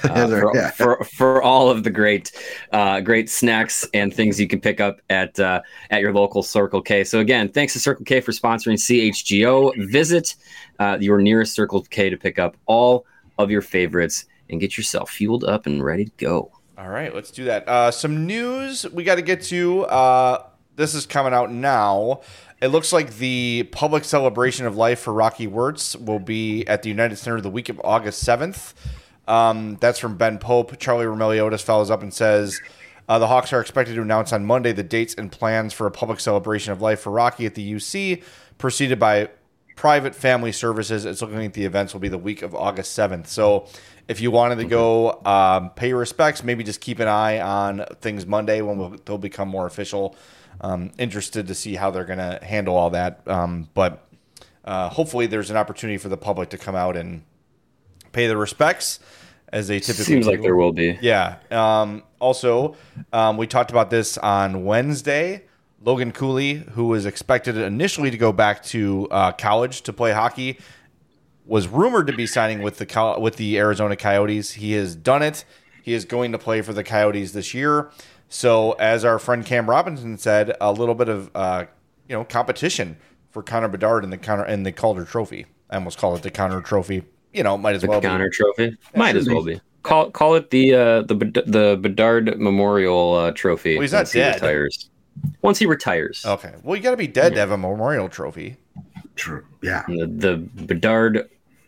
for all of the great snacks and things you can pick up at your local Circle K. So again, thanks to Circle K for sponsoring CHGO. Visit your nearest Circle K to pick up all of your favorites and get yourself fueled up and ready to go. All right, let's do that. Some news we got to get to. This is coming out now. It looks like the public celebration of life for Rocky Wirtz will be at the United Center the week of August 7th. That's from Ben Pope. Charlie Romeliotis follows up and says, the Hawks are expected to announce on Monday the dates and plans for a public celebration of life for Rocky at the UC, preceded by private family services. It's looking like the events will be the week of August 7th. So if you wanted to go pay your respects, maybe just keep an eye on things Monday when they'll become more official. Interested to see how they're going to handle all that. But hopefully there's an opportunity for the public to come out and pay their respects as they typically Seems do. like there will be. Yeah. Also, we talked about this on Wednesday. Logan Cooley, who was expected initially to go back to college to play hockey, was rumored to be signing with the Arizona Coyotes. He has done it. He is going to play for the Coyotes this year. So, as our friend Cam Robinson said, a little bit of competition for Connor Bedard in the Calder Trophy. I almost call it the Connor Trophy. Might as well be. The Connor Trophy might as well be. Call it the Bedard Memorial Trophy. Well, he's not dead. Once he retires. Okay. Well, you got to be dead to have a memorial trophy. True. Yeah. The Bedard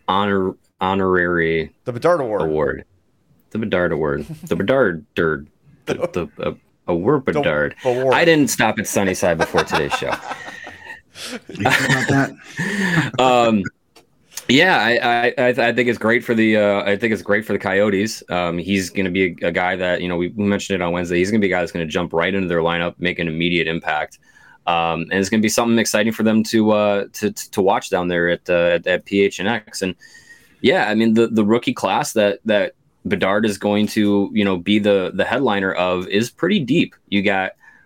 honorary. The Bedard Award. The Bedard Award. The Bedard. A word Bedard. I didn't stop at Sunnyside before today's show. You about that? I think it's great for the Coyotes. He's going to be a guy that we mentioned it on Wednesday. He's going to be a guy that's going to jump right into their lineup, make an immediate impact, and it's going to be something exciting for them to watch down there at PHNX. And yeah, I mean the rookie class that Bedard is going to be the headliner of is pretty deep. You got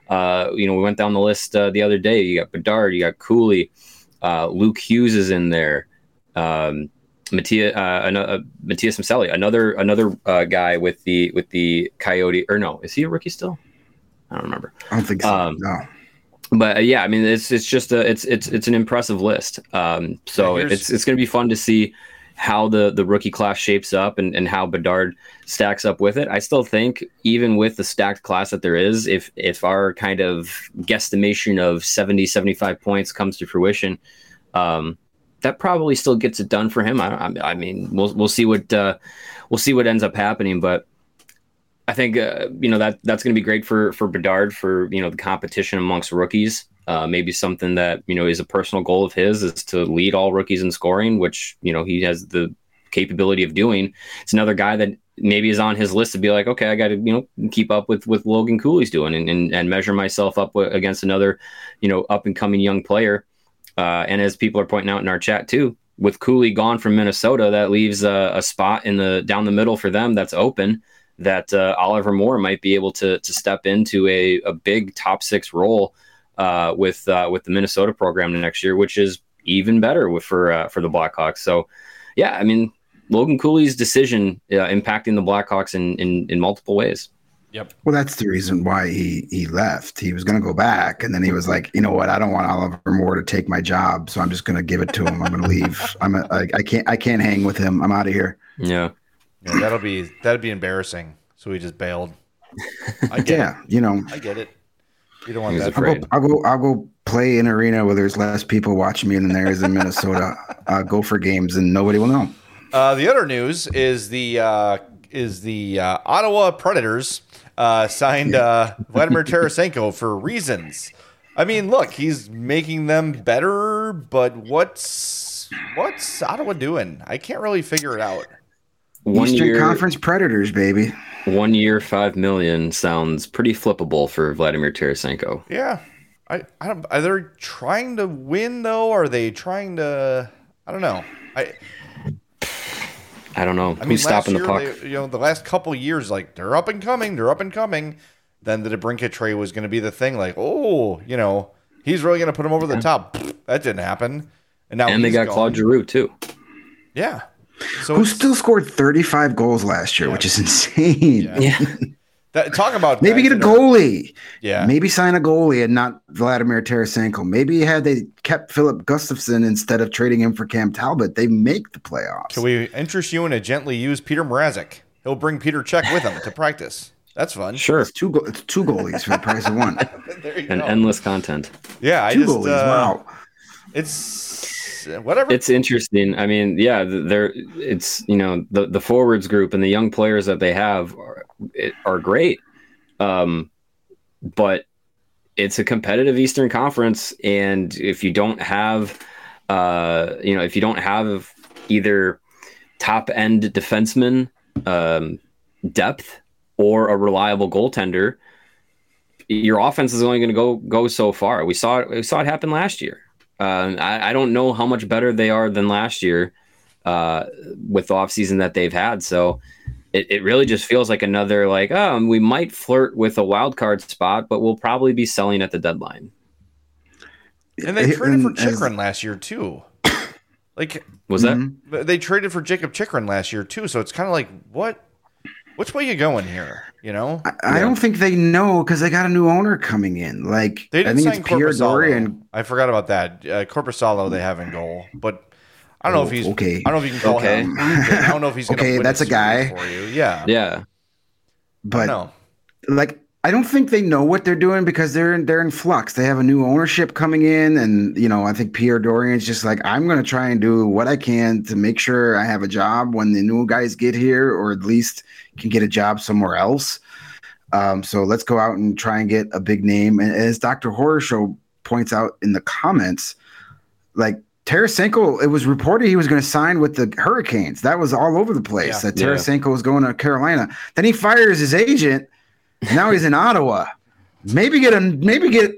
We went down the list the other day. You got Bedard, you got Cooley, Luke Hughes is in there. Matthias Maselli, another guy with the Coyote, or no, is he a rookie still? I don't remember. I don't think so. No. But yeah, I mean, it's just it's an impressive list. So it's going to be fun to see how the rookie class shapes up and how Bedard stacks up with it. I still think, even with the stacked class that there is, if our kind of guesstimation of 70-75 points comes to fruition, that probably still gets it done for him. I mean, we'll see what ends up happening, but I think that's going to be great for Bedard, for the competition amongst rookies. Maybe something that is a personal goal of his is to lead all rookies in scoring, which he has the capability of doing. It's another guy that maybe is on his list to be like, okay, I got to keep up with Logan Cooley's doing and measure myself up against another up and coming young player. And as people are pointing out in our chat too, with Cooley gone from Minnesota, that leaves a spot down the middle for them that's open, that Oliver Moore might be able to step into a big top 6 role with the Minnesota program next year, which is even better for the Blackhawks. So yeah, I mean, Logan Cooley's decision impacting the Blackhawks in multiple ways. Yep. Well, that's the reason why he left. He was going to go back, and then he was like, you know what? I don't want Oliver Moore to take my job, so I'm just going to give it to him. I'm going to leave. I can't hang with him. I'm out of here. Yeah. That'd be embarrassing. So he just bailed. I get it. I get it. You don't want that. I'll go play in an arena where there's less people watching me than there is in Minnesota. Go for games and nobody will know. The other news is the Ottawa Predators signed Vladimir Tarasenko for reasons. I mean, look, he's making them better, but what's Ottawa doing? I can't really figure it out. Eastern Conference Predators, baby. 1 year, $5 million sounds pretty flippable for Vladimir Tarasenko. Yeah, I don't. Are they trying to win though? Are they trying to? I don't know. I don't know. Who's stopping the puck? The last couple of years, like they're up and coming. Then the DeBrincat trade was going to be the thing. Like, he's really going to put him over the top. That didn't happen. And now they got Claude Giroux too. Yeah. So who still scored 35 goals last year, which is insane. Yeah. Talk about maybe get a goalie. Yeah. Maybe sign a goalie and not Vladimir Tarasenko. Maybe had they kept Philip Gustafson instead of trading him for Cam Talbot, they make the playoffs. Can we interest you in a gently used Peter Mrazek? He'll bring Peter Cech with him to practice. That's fun. Sure. It's two goalies for the price of one. There you and go. Endless content. Yeah, two goalies. Wow. It's whatever. It's interesting. I mean, yeah, it's the forwards group and the young players that they have are great, but it's a competitive Eastern Conference, and if you don't have, either top end defenseman depth or a reliable goaltender, your offense is only going to go so far. We saw it happen last year. I don't know how much better they are than last year with the offseason that they've had. So it really just feels like another we might flirt with a wild card spot, but we'll probably be selling at the deadline. And they traded for Chychrun last year too. Was that? They traded for Jacob Chychrun last year too. So it's kind of like, which way you going here? I don't think they know because they got a new owner coming in. I think it's Pierre Dorian. I forgot about that. Korpisalo they have in goal, but I don't know if he's okay. I don't know if you can call him. I don't know if he's going to win that's a guy for you. Yeah. Yeah. But I don't think they know what they're doing because they're in flux. They have a new ownership coming in, and I think Pierre Dorian's just like, I'm going to try and do what I can to make sure I have a job when the new guys get here, or at least can get a job somewhere else. So let's go out and try and get a big name. And as Dr. Horror Show points out in the comments, Tarasenko, it was reported he was going to sign with the Hurricanes. That was all over the place. That Tarasenko was going to Carolina. Then he fires his agent. Now he's in Ottawa. Maybe get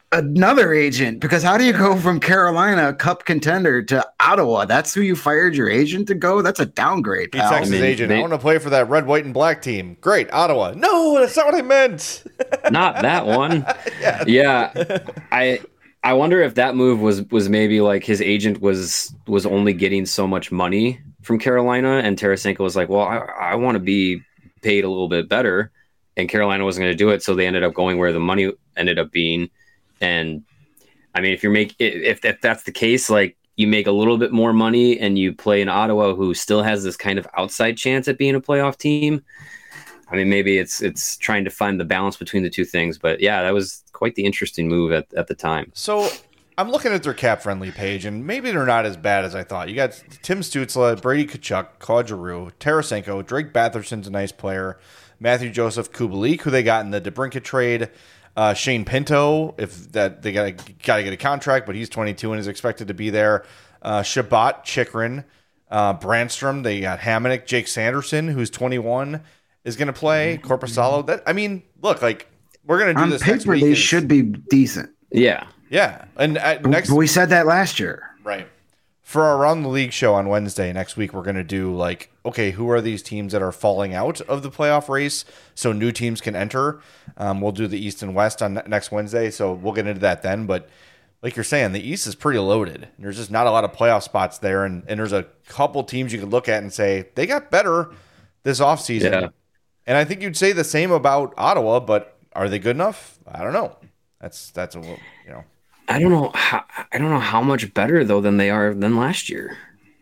another agent, because how do you go from Carolina, Cup contender, to Ottawa? That's who you fired your agent to go? That's a downgrade, He pal. texts his agent, I want to play for that red, white, and black team. Great, Ottawa. No, that's not what I meant. Not that one. Yeah. I wonder if that move was maybe like his agent was only getting so much money from Carolina, and Tarasenko was like, well, I want to be paid a little bit better, and Carolina wasn't going to do it, so they ended up going where the money ended up being. And I mean, if that's the case, like you make a little bit more money and you play in Ottawa, who still has this kind of outside chance at being a playoff team. I mean, maybe it's trying to find the balance between the two things, but yeah, that was quite the interesting move at the time. So I'm looking at their cap-friendly page, and maybe they're not as bad as I thought. You got Tim Stützle, Brady Tkachuk, Claude Giroux, Tarasenko, Drake Batherson's a nice player, Matthew Joseph Kubalik, who they got in the DeBrincat trade, Shane Pinto, if that they got to get a contract, but he's 22 and is expected to be there. Shabbat Chikrin, Brandstrom, they got Hamonic, Jake Sanderson, who's 21, is going to play. Korpisalo. That, I mean, look, like we're going to do on this paper, next week. they should be decent. Yeah. Yeah, and next we said that last year. right. For our Around the League show on Wednesday next week, we're going to do like, okay, who are these teams that are falling out of the playoff race so new teams can enter? We'll do the East and West on next Wednesday, so we'll get into that then. But like you're saying, the East is pretty loaded. There's just not a lot of playoff spots there, and there's a couple teams you could look at and say they got better this offseason. Yeah. And I think you'd say the same about Ottawa, but are they good enough? I don't know. That's a little, you know. I don't know how much better though than they are than last year.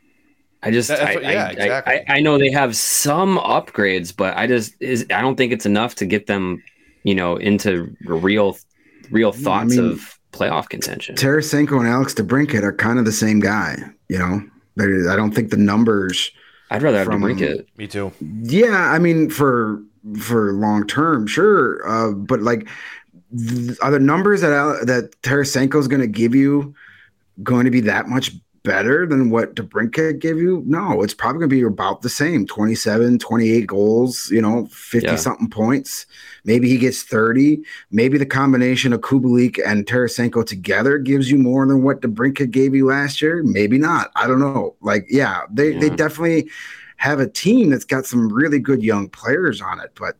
Exactly. I know they have some upgrades, but I don't think it's enough to get them, into real thoughts of playoff contention. Tarasenko and Alex DeBrincat are kind of the same guy. I don't think the numbers. I'd rather have DeBrincat. Me too. Yeah, I mean for long term, sure, but like. Are the numbers that Tarasenko is going to give you going to be that much better than what DeBrincat gave you? No, it's probably going to be about the same. 27, 28 goals, 50-something points. Maybe he gets 30. Maybe the combination of Kubalik and Tarasenko together gives you more than what DeBrincat gave you last year. Maybe not. I don't know. They definitely have a team that's got some really good young players on it. But,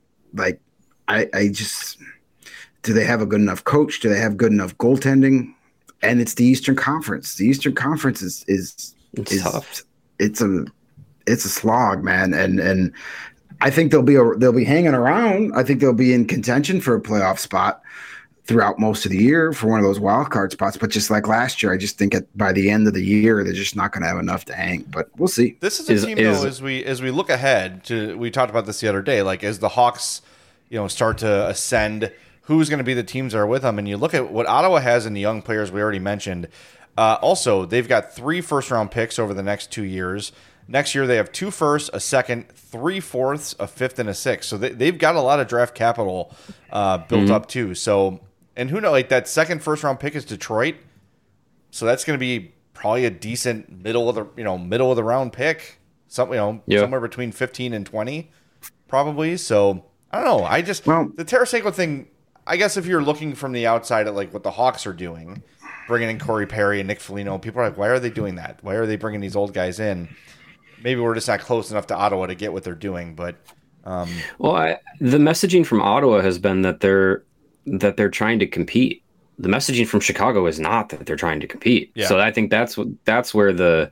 I just... Do they have a good enough coach? Do they have good enough goaltending? And it's the Eastern Conference. The Eastern Conference is tough. It's a slog, man. And I think they'll be hanging around. I think they'll be in contention for a playoff spot throughout most of the year for one of those wild card spots. But just like last year, I just think by the end of the year they're just not going to have enough to hang. But we'll see. This is a team though. As we look ahead to, we talked about this the other day. Like as the Hawks, start to ascend. Who's going to be the teams that are with them? And you look at what Ottawa has in the young players we already mentioned. Also, they've got 3 first-round picks over the next 2 years. Next year, they have 2 firsts, a second, 3 fourths, a fifth, and a sixth. So they've got a lot of draft capital built up too. So, and who knows? Like that second first-round pick is Detroit. So that's going to be probably a decent middle of the round pick. Somewhere between 15 and 20, probably. So I don't know. The Tarasenko thing. I guess if you're looking from the outside at like what the Hawks are doing, bringing in Corey Perry and Nick Foligno, people are like, why are they doing that? Why are they bringing these old guys in? Maybe we're just not close enough to Ottawa to get what they're doing. But the messaging from Ottawa has been that they're trying to compete. The messaging from Chicago is not that they're trying to compete. Yeah. So I think that's where the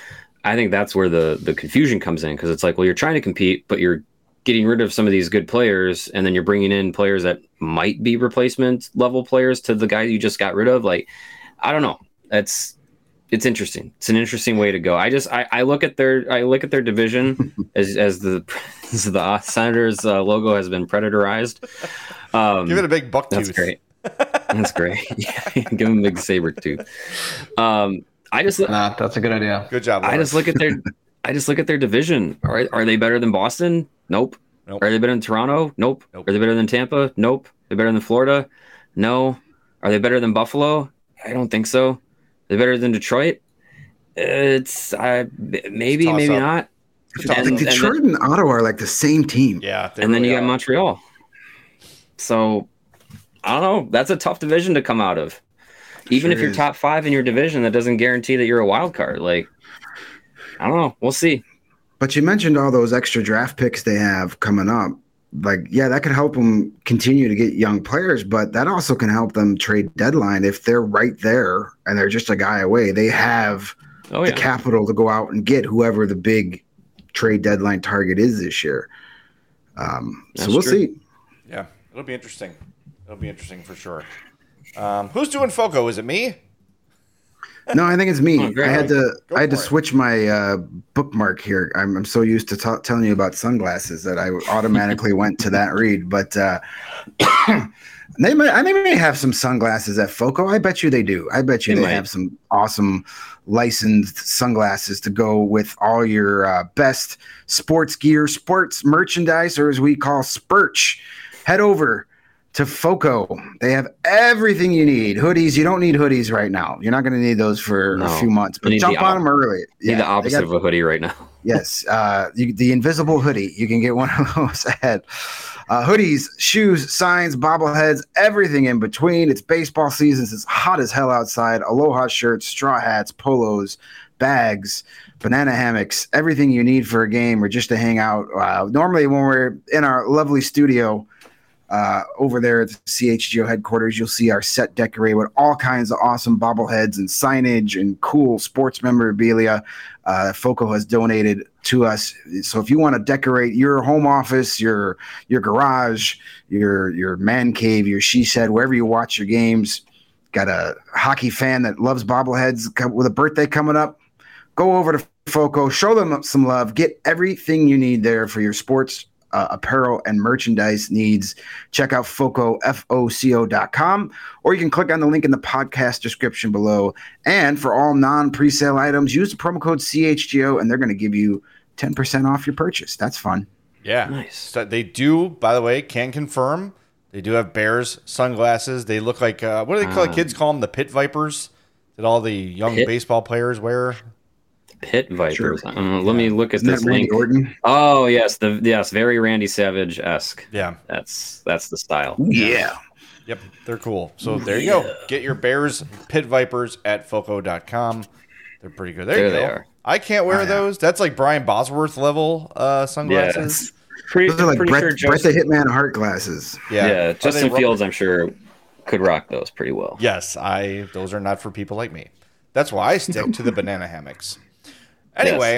confusion comes in, because it's like, well, you're trying to compete, but you're getting rid of some of these good players, and then you're bringing in players that might be replacement level players to the guy you just got rid of. Like, I don't know. It's interesting. It's an interesting way to go. I look at their division as the Senators logo has been predatorized. Give it a big buck tooth. That's great. That's great. Yeah, give them a big saber tooth. That's a good idea. Good job, Lawrence. I just look at their division. Are they better than Boston? Nope. Are they better than Toronto? Nope. Are they better than Tampa? Nope. Are they better than Florida? No. Are they better than Buffalo? I don't think so. Are they better than Detroit? It's maybe not. Detroit and Ottawa are like the same team. Yeah. And then you got Montreal. So I don't know. That's a tough division to come out of. Even if you're top 5 in your division, that doesn't guarantee that you're a wild card. Like, I don't know. We'll see. But you mentioned all those extra draft picks they have coming up. Like, yeah, that could help them continue to get young players, but that also can help them trade deadline if they're right there and they're just a guy away. They have the capital to go out and get whoever the big trade deadline target is this year. So we'll see. Yeah, it'll be interesting. It'll be interesting for sure. Who's doing FOCO? Is it me? No, I think it's me. I had to switch my bookmark here. I'm so used to telling you about sunglasses that I automatically went to that read. But they may have some sunglasses at FOCO. I bet you they do. I bet you they have some awesome licensed sunglasses to go with all your best sports gear, sports merchandise, or as we call Spurch. Head over to FOCO. They have everything you need. Hoodies. You don't need hoodies right now. You're not going to need those for a few months, but jump on them early. Need the opposite of a hoodie right now. Yes. The invisible hoodie. You can get one of those ahead. Hoodies, shoes, signs, bobbleheads, everything in between. It's baseball season. It's hot as hell outside. Aloha shirts, straw hats, polos, bags, banana hammocks, everything you need for a game or just to hang out. Normally when we're in our lovely studio, over there at the CHGO headquarters, you'll see our set decorated with all kinds of awesome bobbleheads and signage and cool sports memorabilia FOCO has donated to us. So if you want to decorate your home office, your garage, your man cave, your she shed, wherever you watch your games, got a hockey fan that loves bobbleheads with a birthday coming up, go over to FOCO, show them some love, get everything you need there for your sports apparel and merchandise needs. Check out FOCO, FOCO.com, or you can click on the link in the podcast description below. And for all non-presale items, use the promo code CHGO, and they're going to give you 10% off your purchase. That's fun. Yeah. Nice. So they do, by the way, can confirm, they do have Bears sunglasses. They look like, what do they call kids call them? The Pit Vipers that all the young baseball players wear? Pit Vipers. Sure. Let me look at this link. Orton? Oh yes, very Randy Savage-esque. Yeah, that's the style. Yeah. Yep, they're cool. So there you go. Get your Bears Pit Vipers at FOCO.com. They're pretty good. There you go. They are. I can't wear those. That's like Brian Bosworth level sunglasses. Those are like Bret the Hitman Hart glasses. Yeah. Justin Fields, I'm sure, could rock those pretty well. Yes, those are not for people like me. That's why I stick to the banana hammocks. Anyway,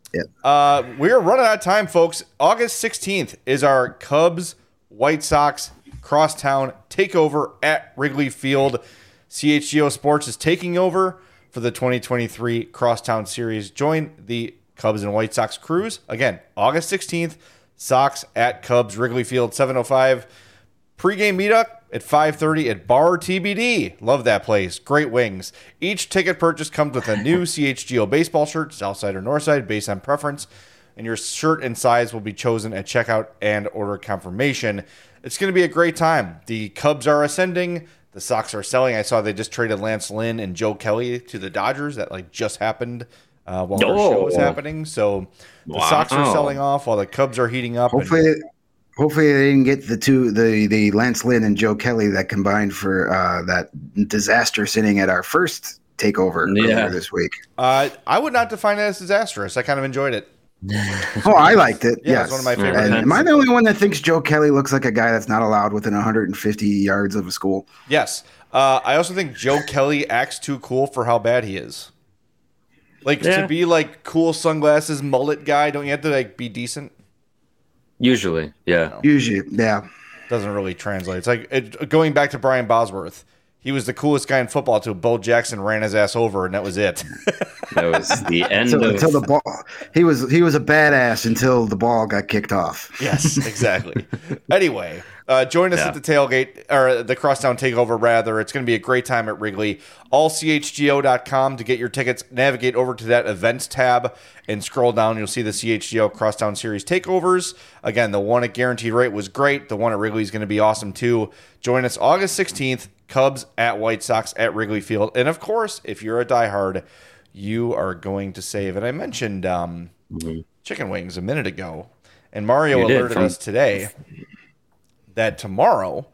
we're running out of time, folks. August 16th is our Cubs White Sox crosstown takeover at Wrigley Field. CHGO Sports is taking over for the 2023 Crosstown Series. Join the Cubs and White Sox crews. Again, August 16th, Sox at Cubs Wrigley Field, 7:05. Pre-game meetup at 5:30 at Bar TBD. Love that place. Great wings. Each ticket purchase comes with a new CHGO baseball shirt, south side or north side, based on preference. And your shirt and size will be chosen at checkout and order confirmation. It's going to be a great time. The Cubs are ascending. The Sox are selling. I saw they just traded Lance Lynn and Joe Kelly to the Dodgers. That just happened while our show was happening. So the Sox are selling off while the Cubs are heating up. Hopefully they didn't get the Lance Lynn and Joe Kelly that combined for that disaster sitting at our first takeover earlier this week. I would not define it as disastrous. I kind of enjoyed it. Oh, I liked it. Yeah, it's one of my favorites. And am I the only one that thinks Joe Kelly looks like a guy that's not allowed within 150 yards of a school? Yes. I also think Joe Kelly acts too cool for how bad he is. To be like cool sunglasses, mullet guy, don't you have to be decent? Usually, yeah. Usually, yeah. Doesn't really translate. It's like going back to Brian Bosworth. He was the coolest guy in football until Bo Jackson ran his ass over, and that was it. That was the end until the ball. He was a badass until the ball got kicked off. Yes, exactly. Anyway, join us at the tailgate, or the Crosstown Takeover, rather. It's going to be a great time at Wrigley. AllCHGO.com to get your tickets. Navigate over to that events tab and scroll down. You'll see the CHGO Crosstown Series takeovers. Again, the one at Guaranteed Rate was great. The one at Wrigley is going to be awesome, too. Join us August 16th. Cubs at White Sox at Wrigley Field. And, of course, if you're a diehard, you are going to save. And I mentioned chicken wings a minute ago. And Mario alerted us today that tomorrow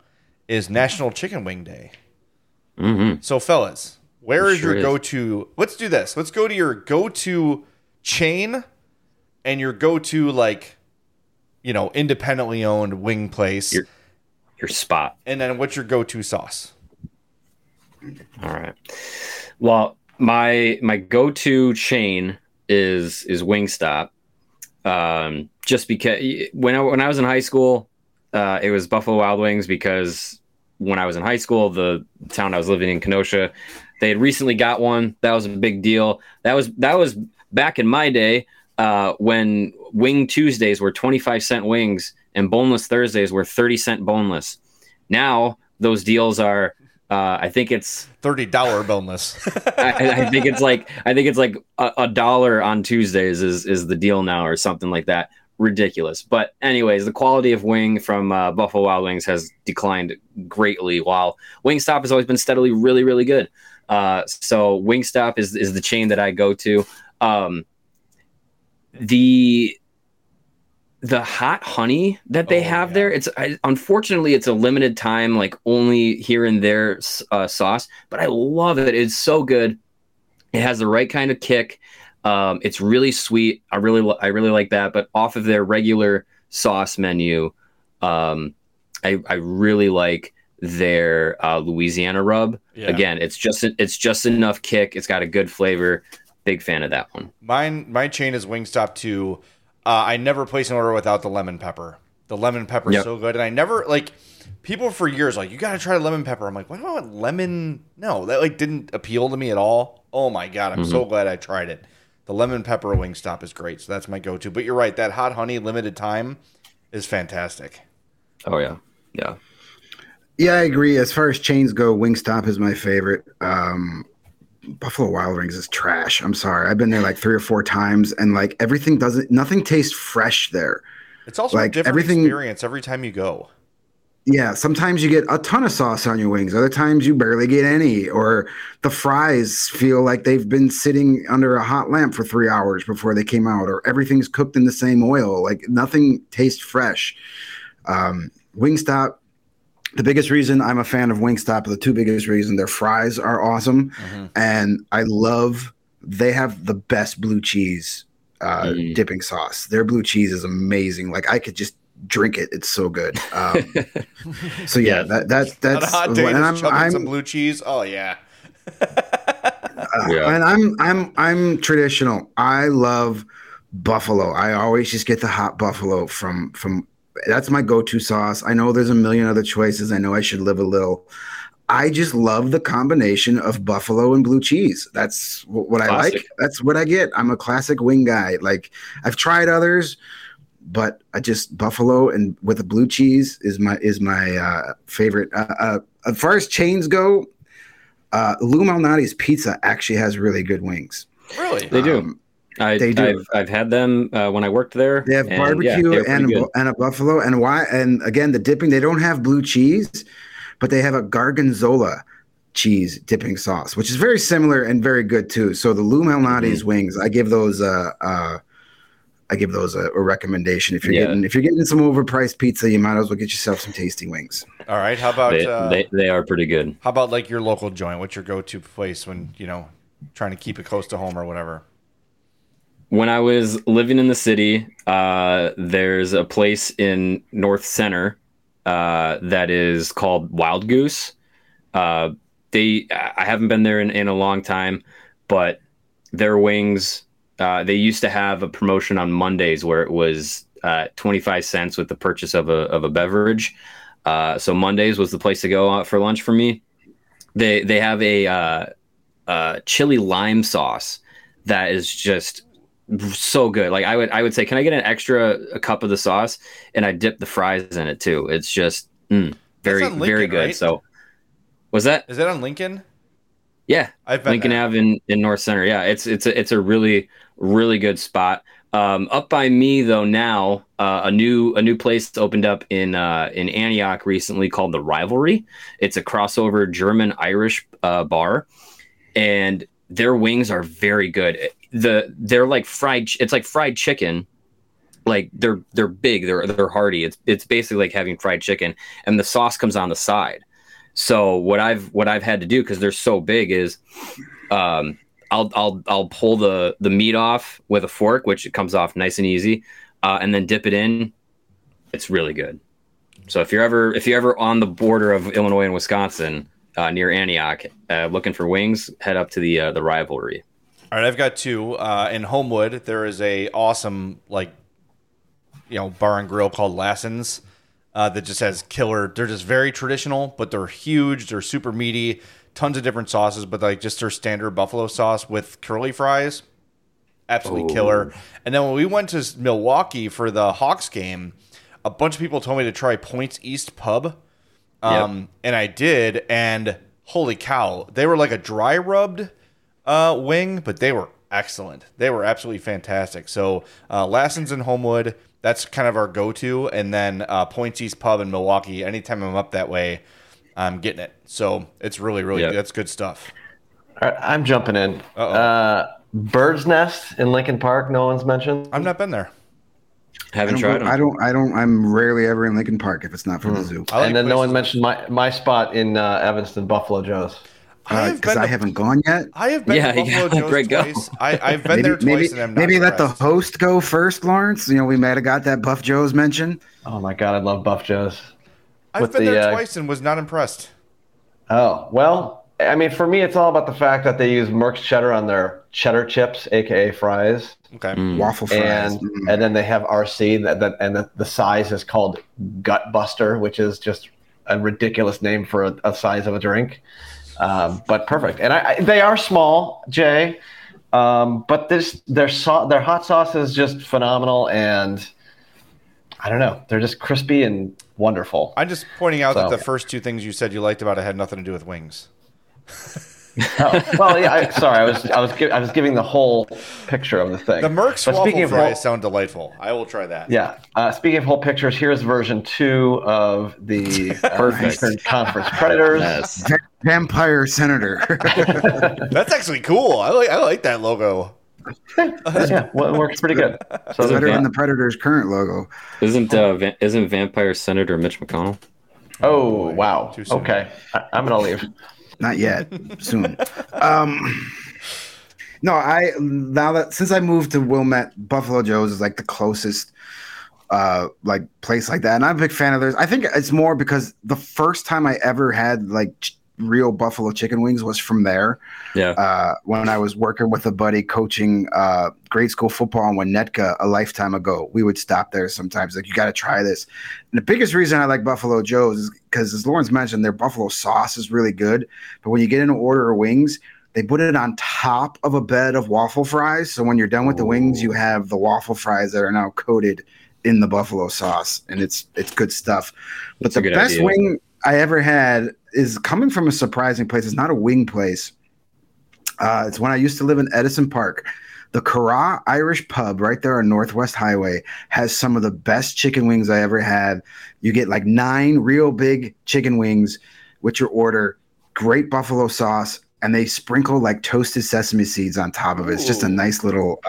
is National Chicken Wing Day. Mm-hmm. So, fellas, where is Sure your is. go-to? Let's do this. Let's go to your go-to chain and your go-to, like, independently owned wing place. Your spot. And then what's your go-to sauce? All right. Well, my go-to chain is Wingstop. Just because when I was in high school, it was Buffalo Wild Wings, because when I was in high school, the town I was living in, Kenosha, they had recently got one. That was a big deal. That was back in my day, when Wing Tuesdays were 25-cent wings and Boneless Thursdays were 30-cent boneless. Now those deals are, I think it's $30 boneless. I think it's like $1 on Tuesdays is the deal now, or something like that. Ridiculous. But anyways, the quality of wing from Buffalo Wild Wings has declined greatly, while Wingstop has always been steadily really, really good. So Wingstop is the chain that I go to. The hot honey that they have there, unfortunately it's a limited time, like only here and there sauce, but I love it. It's so good. It has the right kind of kick. It's really sweet. I really like that. But off of their regular sauce menu, I really like their Louisiana rub. Yeah. Again, it's just enough kick. It's got a good flavor. Big fan of that one. My chain is Wingstop too. I never place an order without the lemon pepper. The lemon pepper is so good, and I never people for years you got to try lemon pepper. I'm like, why do I want lemon? No, that didn't appeal to me at all. Oh my god, I'm so glad I tried it. The lemon pepper Wingstop is great, so that's my go-to. But you're right, that hot honey limited time is fantastic. Oh yeah. Yeah, I agree. As far as chains go, Wingstop is my favorite. Buffalo Wild Wings is trash. I'm sorry. I've been there like 3 or 4 times, and nothing tastes fresh there. It's also a different experience every time you go. Yeah, sometimes you get a ton of sauce on your wings. Other times you barely get any, or the fries feel like they've been sitting under a hot lamp for 3 hours before they came out, or everything's cooked in the same oil. Like nothing tastes fresh. Wingstop, the biggest reason I'm a fan of Wingstop, the 2 biggest reasons, their fries are awesome. Mm-hmm. And they have the best blue cheese dipping sauce. Their blue cheese is amazing. Like I could just drink it. It's so good. So yeah, that's on a hot day, and I'm some blue cheese. Oh yeah. And I'm traditional. I love buffalo. I always just get the hot buffalo from that's my go-to sauce. I know there's a million other choices. I know I should live a little. I just love the combination of buffalo and blue cheese. That's what I like. That's what I get. I'm a classic wing guy. Like I've tried others, but I just buffalo and with the blue cheese is my favorite. As far as chains go, Lou Malnati's Pizza actually has really good wings. Really, they do. I've had them when I worked there. They have barbecue and a buffalo. And again, the dipping, they don't have blue cheese, but they have a Gorgonzola cheese dipping sauce, which is very similar and very good too. So the Lou Malnati's wings, I give those a recommendation. If you're getting some overpriced pizza, you might as well get yourself some tasty wings. All right. How about they are pretty good. How about like your local joint? What's your go-to place when trying to keep it close to home or whatever? When I was living in the city, there's a place in North Center that is called Wild Goose. I haven't been there in a long time, but their wings, they used to have a promotion on Mondays where it was 25 cents with the purchase of a beverage. So Mondays was the place to go out for lunch for me. They have a chili lime sauce that is just so good. Like I would say, can I get a cup of the sauce? And I dip the fries in it too. It's just very, Lincoln, very good. Right? So was that? Is that on Lincoln? Yeah. Lincoln Ave in North Center. Yeah. It's a really, really good spot. Up by me though now, a new place opened up in Antioch recently called The Rivalry. It's a crossover German-Irish bar, and their wings are very good. They're like fried. It's like fried chicken, like they're big, they're hearty. It's basically like having fried chicken, and the sauce comes on the side. So what I've had to do, because they're so big, is I'll pull the meat off with a fork, which it comes off nice and easy, and then dip it in. It's really good. So if you're ever on the border of Illinois and Wisconsin, near Antioch, looking for wings, head up to the Rivalry. All right, I've got two. In Homewood, there is a awesome bar and grill called Lassen's that just has killer. They're just very traditional, but they're huge. They're super meaty. Tons of different sauces, but like just their standard buffalo sauce with curly fries, absolutely killer. And then when we went to Milwaukee for the Hawks game, a bunch of people told me to try Points East Pub, and I did. And holy cow, they were like a dry rubbed wing, but they were excellent. They were absolutely fantastic. So Lassen's in Homewood, that's kind of our go-to, and then Points East Pub in Milwaukee. Anytime I'm up that way, I'm getting it. So it's really, really good. That's good stuff. All right, I'm jumping in. Bird's Nest in Lincoln Park. No one's mentioned. I've not been there. Haven't tried them. I don't. I'm rarely ever in Lincoln Park if it's not for the zoo. And then no one mentioned my spot in Evanston, Buffalo Joe's. Because I haven't gone yet. I have been to Buffalo Joe's twice. I've been there twice, and I'm not maybe let impressed. the host go first, Lawrence. We might have got that Buff Joe's mention. Oh my God, I love Buff Joe's. I've been there twice and was not impressed. Oh, well, I mean, for me, it's all about the fact that they use Merck's cheddar on their cheddar chips, aka fries. Okay. Waffle fries. And then they have RC, and the size is called Gut Buster, which is just a ridiculous name for a size of a drink. But perfect. And they are small, Jay, but their hot sauce is just phenomenal, and I don't know, they're just crispy and wonderful. I'm just pointing out that the first two things you said you liked about it had nothing to do with wings. Well, yeah. Sorry, I was giving the whole picture of the thing. The Merck's waffle fries sound delightful. I will try that. Yeah. Speaking of whole pictures, here's version 2 of the Eastern Conference Predators. Yes. Vampire Senator. That's actually cool. I like that logo. Yeah, well, it works pretty good. So It's better than the Predators' current logo. Isn't Vampire Senator Mitch McConnell? Oh, wow. Too soon. Okay. I'm going to leave. Not yet. Soon. No, since I moved to Wilmette, Buffalo Joe's is like the closest place like that, and I'm a big fan of theirs. I think it's more because the first time I ever had real buffalo chicken wings was from there. Yeah. When I was working with a buddy coaching grade school football in Winnetka a lifetime ago, we would stop there sometimes. Like, you got to try this. And the biggest reason I like Buffalo Joe's is because, as Lawrence mentioned, their buffalo sauce is really good. But when you get in an order of wings, they put it on top of a bed of waffle fries. So when you're done with the wings, you have the waffle fries that are now coated in the buffalo sauce, and it's good stuff. But the best wing I ever had is coming from a surprising place. It's not a wing place. It's when I used to live in Edison Park. The Curragh Irish Pub right there on Northwest Highway has some of the best chicken wings I ever had. You get 9 real big chicken wings with your order, great buffalo sauce, and they sprinkle toasted sesame seeds on top of it. It's just a nice little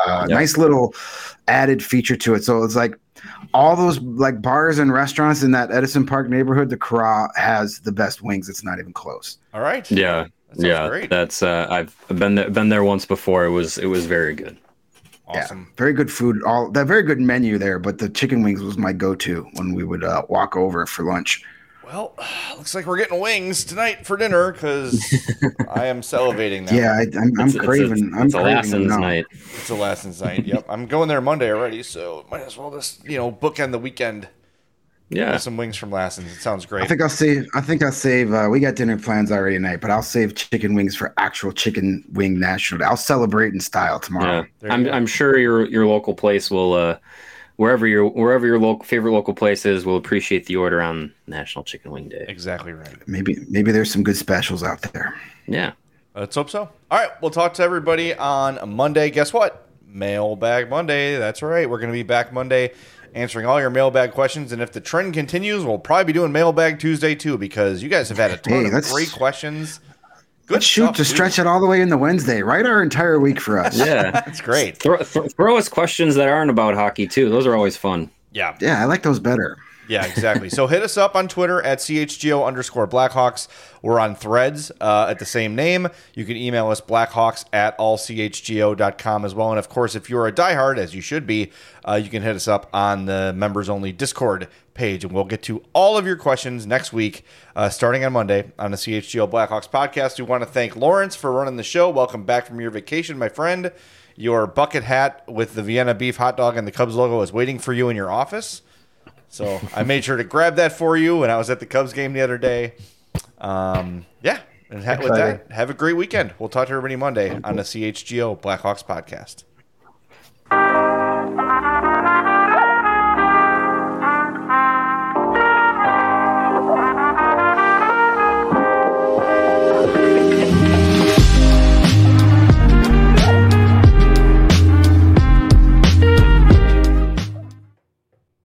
added feature to it. So it's all those bars and restaurants in that Edison Park neighborhood, the Curragh has the best wings. It's not even close. All right. Yeah. Great. That's I've been there once before. It was very good. Awesome. Yeah, very good food. That very good menu there, but the chicken wings was my go-to when we would walk over for lunch. Well, looks like we're getting wings tonight for dinner because I am salivating now. Yeah, I'm craving. It's a Lassen's night. It's a Lassen's night. Yep, I'm going there Monday already, so might as well just bookend the weekend. Yeah, with some wings from Lassen's. It sounds great. I think I'll save. We got dinner plans already tonight, but I'll save chicken wings for actual chicken wing national day. I'll celebrate in style tomorrow. Yeah. I'm sure your local place will. Wherever your favorite local place is, will appreciate the order on National Chicken Wing Day. Exactly right. Maybe there's some good specials out there. Yeah. Let's hope so. All right, we'll talk to everybody on Monday. Guess what? Mailbag Monday. That's right. We're going to be back Monday answering all your mailbag questions. And if the trend continues, we'll probably be doing Mailbag Tuesday too, because you guys have had a ton of great questions. Good Let's shoot stuff, to dude. stretch it all the way into Wednesday. Write our entire week for us. Yeah. That's great. Throw us questions that aren't about hockey, too. Those are always fun. Yeah. Yeah, I like those better. Yeah, exactly. So hit us up on Twitter at CHGO_Blackhawks. We're on Threads at the same name. You can email us blackhawks@allchgo.com as well. And of course, if you're a diehard, as you should be, you can hit us up on the members only Discord page, and we'll get to all of your questions next week, starting on Monday on the CHGO Blackhawks podcast. We want to thank Lawrence for running the show. Welcome back from your vacation, my friend. Your bucket hat with the Vienna beef hot dog and the Cubs logo is waiting for you in your office. So I made sure to grab that for you when I was at the Cubs game the other day. Yeah, and with that, have a great weekend. We'll talk to everybody Monday on the CHGO Blackhawks podcast.